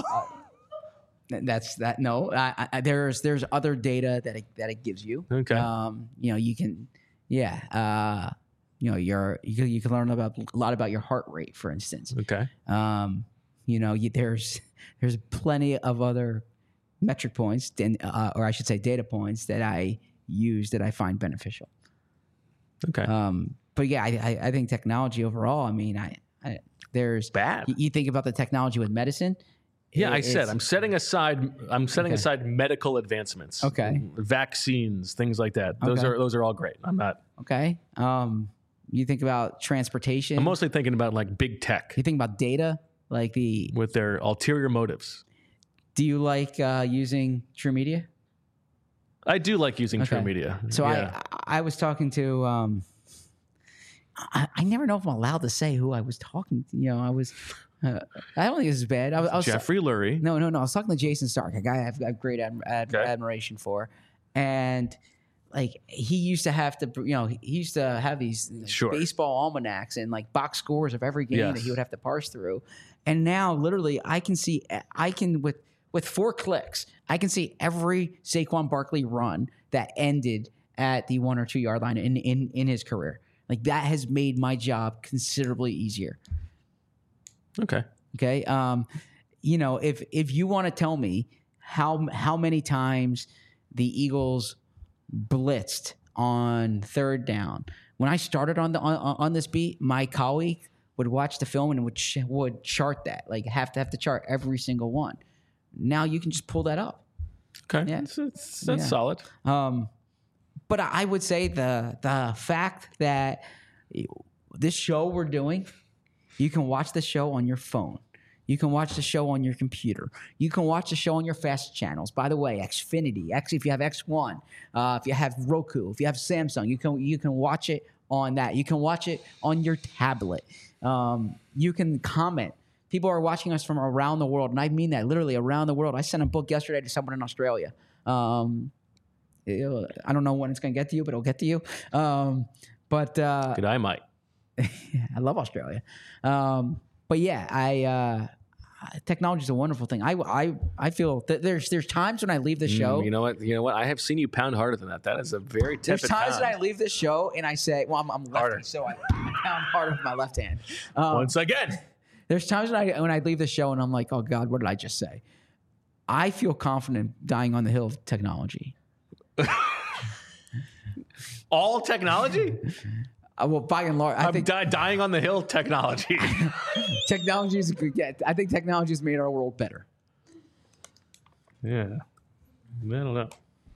That's that. No, I, I, there's there's other data that it, that it gives you.
Okay.
Um, you know, you can, yeah. Uh, you know, your you can, you can learn about a lot about your heart rate, for instance.
Okay.
Um, you know, you, there's there's plenty of other metric points, and, uh, or I should say, data points that I use that I find beneficial.
Okay.
Um, but yeah, I, I, I think technology overall. I mean, I, I there's
Bad.
You, you think about the technology with medicine.
Yeah, I
it-
said
it's-
I'm setting aside. I'm setting
Okay.
aside medical advancements.
Okay.
Vaccines, things like that. Those
Okay.
are those are all great. I'm not.
Okay. Um, you think about transportation.
I'm mostly thinking about like big tech
you think about data, like the.
with their ulterior motives.
Do you like uh, using True Media?
I do like using True
Okay.
Media.
So
yeah.
I I was talking to. Um, I, I never know if I'm allowed to say who I was talking to. You know, I was. Uh, I don't think this is bad. I, was- I was
Jeffrey Lurie.
No, no, no. I was talking to Jason Stark, a guy I have, I have great ad, ad,
Okay.
admiration for, and like he used to have to, you know, he used to have these
Sure.
baseball almanacs and like box scores of every game that
Yes.
he would have to parse through. And now, literally, I can see, I can with with four clicks, I can see every Saquon Barkley run that ended at the one or two yard line in in in his career. Like that has made my job considerably easier.
Okay.
Okay. Um, you know, if if you want to tell me how how many times the Eagles blitzed on third down, when I started on the on, on this beat, my colleague would watch the film and would ch- would chart that, like have to have to chart every single one. Now you can just pull that up.
Okay.
Yeah.
That's, that's, that's
Yeah.
solid.
Um, but I would say the the fact that this show we're doing, you can watch the show on your phone. You can watch the show on your computer. You can watch the show on your fast channels. By the way, Xfinity, X if you have X one, uh, if you have Roku, if you have Samsung, you can you can watch it on that. You can watch it on your tablet. Um, you can comment. People are watching us from around the world, and I mean that literally around the world. I sent a book yesterday to someone in Australia. Um, It'll- I don't know when it's going to get to you, but it'll get to you. Um, but uh,
Good, I might.
I love Australia. Um, but yeah, I uh, technology is a wonderful thing. I, I, I feel that there's there's times when I leave the show.
Mm, you know what? You know what? I have seen you pound harder than that. That is a very
There's
tepid
times
pound.
that I leave the show and I say, well, I'm, I'm lefty,
Harder.
so I pound harder with my left hand. Um,
Once again.
There's times when I when I leave the show and I'm like, oh God, what did I just say? I feel confident dying on the hill of technology.
All technology?
Uh, well, by and large, I
I'm
think
di- dying on the hill technology.
technology is good. Yeah, I think technology has made our world better.
Yeah. I don't know.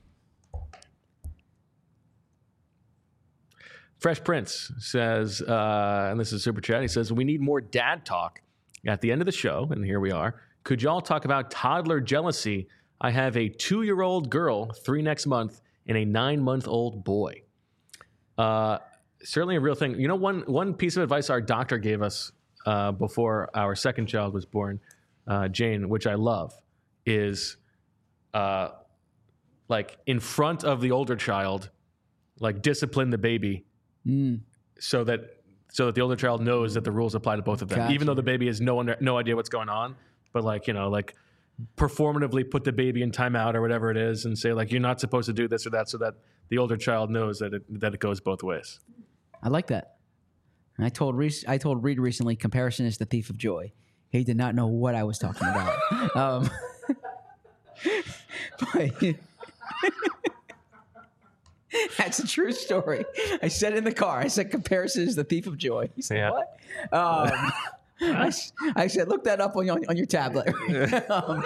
Fresh Prince says, uh, and this is Super Chat, he says, we need more dad talk at the end of the show, and here we are. Could y'all talk about toddler jealousy? I have a two-year-old girl, three next month, and a nine-month-old boy. Uh, certainly a real thing. You know, one one piece of advice our doctor gave us uh, before our second child was born, uh, Jane, which I love, is uh, like in front of the older child, like discipline the baby
Mm.
so that so that the older child knows that the rules apply to both of them,
Gotcha.
even though the baby has no under, no idea what's going on. But like, you know, like performatively put the baby in timeout or whatever it is and say like, you're not supposed to do this or that, so that the older child knows that it, that it goes both ways.
I like that. And I told Reese, I told Reed recently, comparison is the thief of joy. He did not know what I was talking about. um, but, that's a true story. I said in the car, I said comparison is the thief of joy. He said,
Yeah.
what? Um, I, s- I said, look that up on your, on your tablet. um,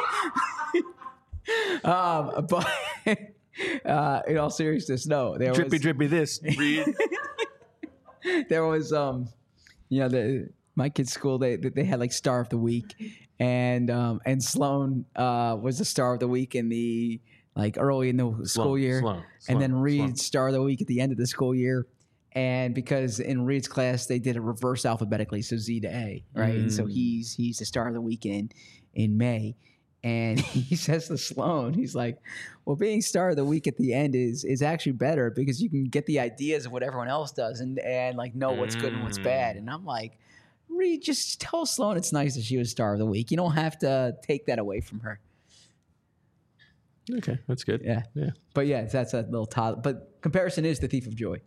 um, but uh, in all seriousness, no. There
Drippy,
was,
drippy this. Read.
there was, um, you know, the, my kids' school, they they had like Star of the Week. And um, and Sloan uh, was the Star of the Week in the, like early in the school
Sloan,
year.
Sloan,
and then
Sloan,
Reed
Sloan.
Star of the Week at the end of the school year. And because in Reed's class they did it reverse alphabetically, so Z to A, right? And so
Mm.
he's he's the Star of the Week in in May. And he says to Sloan, he's like, well, being Star of the Week at the end is is actually better because you can get the ideas of what everyone else does and and like know what's good and what's
Mm.
bad. And I'm like, Reed, just tell Sloan it's nice that she was Star of the Week. You don't have to take that away from her.
Okay, that's good.
Yeah.
Yeah.
But yeah, that's a little toddler. But comparison is the thief of joy.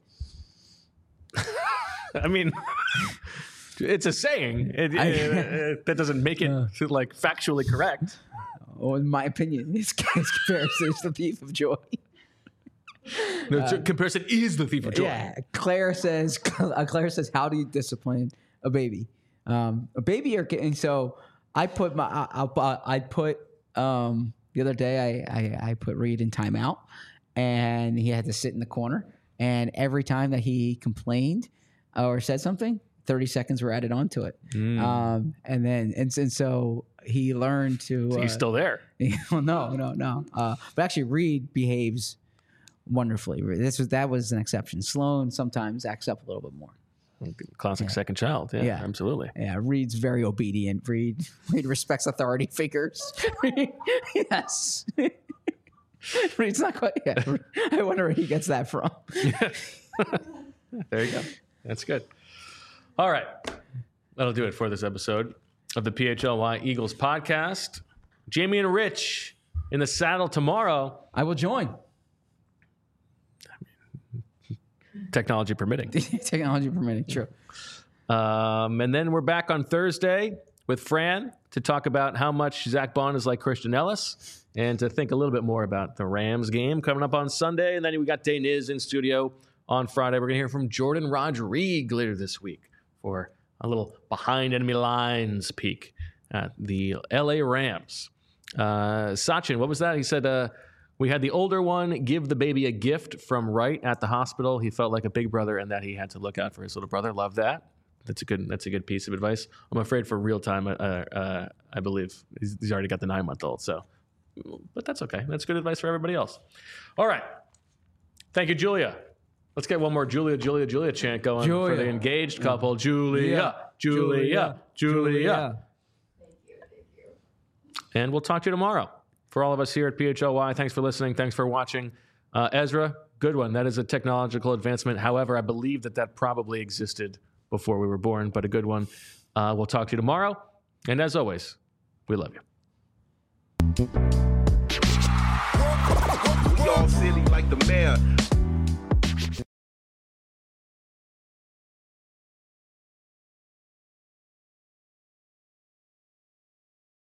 I mean, it's a saying. It,
I-
it- that doesn't make it like factually correct.
Oh, in my opinion, this guy's comparison is the thief of joy.
No, it's- comparison is the thief of joy.
Yeah, Claire says. Uh, Claire says, "How do you discipline a baby? Um, a baby, or and so I put my. I, I, I put um, the other day. I, I I put Reed in timeout, and he had to sit in the corner. And every time that he complained or said something, thirty seconds were added onto it.
Mm.
Um, and then and, and so he learned to.
So
uh,
he's still there.
well, no, no, no. Uh, but actually, Reed behaves wonderfully. This was that was an exception. Sloan sometimes acts up a little bit more.
Classic second child. Yeah,
Yeah.
absolutely.
Yeah, Reed's very obedient. Reed Reed respects authority figures. Yes. Reed's not quite. Yeah. I wonder where he gets that from.
There you go. That's good. All right. That'll do it for this episode of the P H L Y Eagles podcast. Jamie and Rich in the saddle tomorrow,
I will join.
technology permitting.
Technology permitting. True.
Um, and then we're back on Thursday with Fran to talk about how much Zach Bond is like Christian Ellis and to think a little bit more about the Rams game coming up on Sunday. And then we got Day Niz in studio on Friday. We're going to hear from Jordan Rodriguez later this week for a little behind enemy lines peek at the L A Rams. Uh, Sachin, what was that? He said, uh, we had the older one give the baby a gift from Wright at the hospital. He felt like a big brother and that he had to look out for his little brother. Love that. That's a good. That's a good piece of advice. I'm afraid for real time. Uh, uh, I believe he's, he's already got the nine month old. So, but that's okay. That's good advice for everybody else. All right. Thank you, Julia. Let's get one more Julia, Julia, Julia chant going for
Julia.
the engaged couple. Julia,
Yeah.
Julia, Julia,
Julia.
And we'll talk to you tomorrow. For all of us here at P H L Y, thanks for listening. Thanks for watching. Uh, Ezra, good one. That is a technological advancement. However, I believe that that probably existed before we were born, but a good one. Uh, we'll talk to you tomorrow. And as always, We love you.
We all silly like the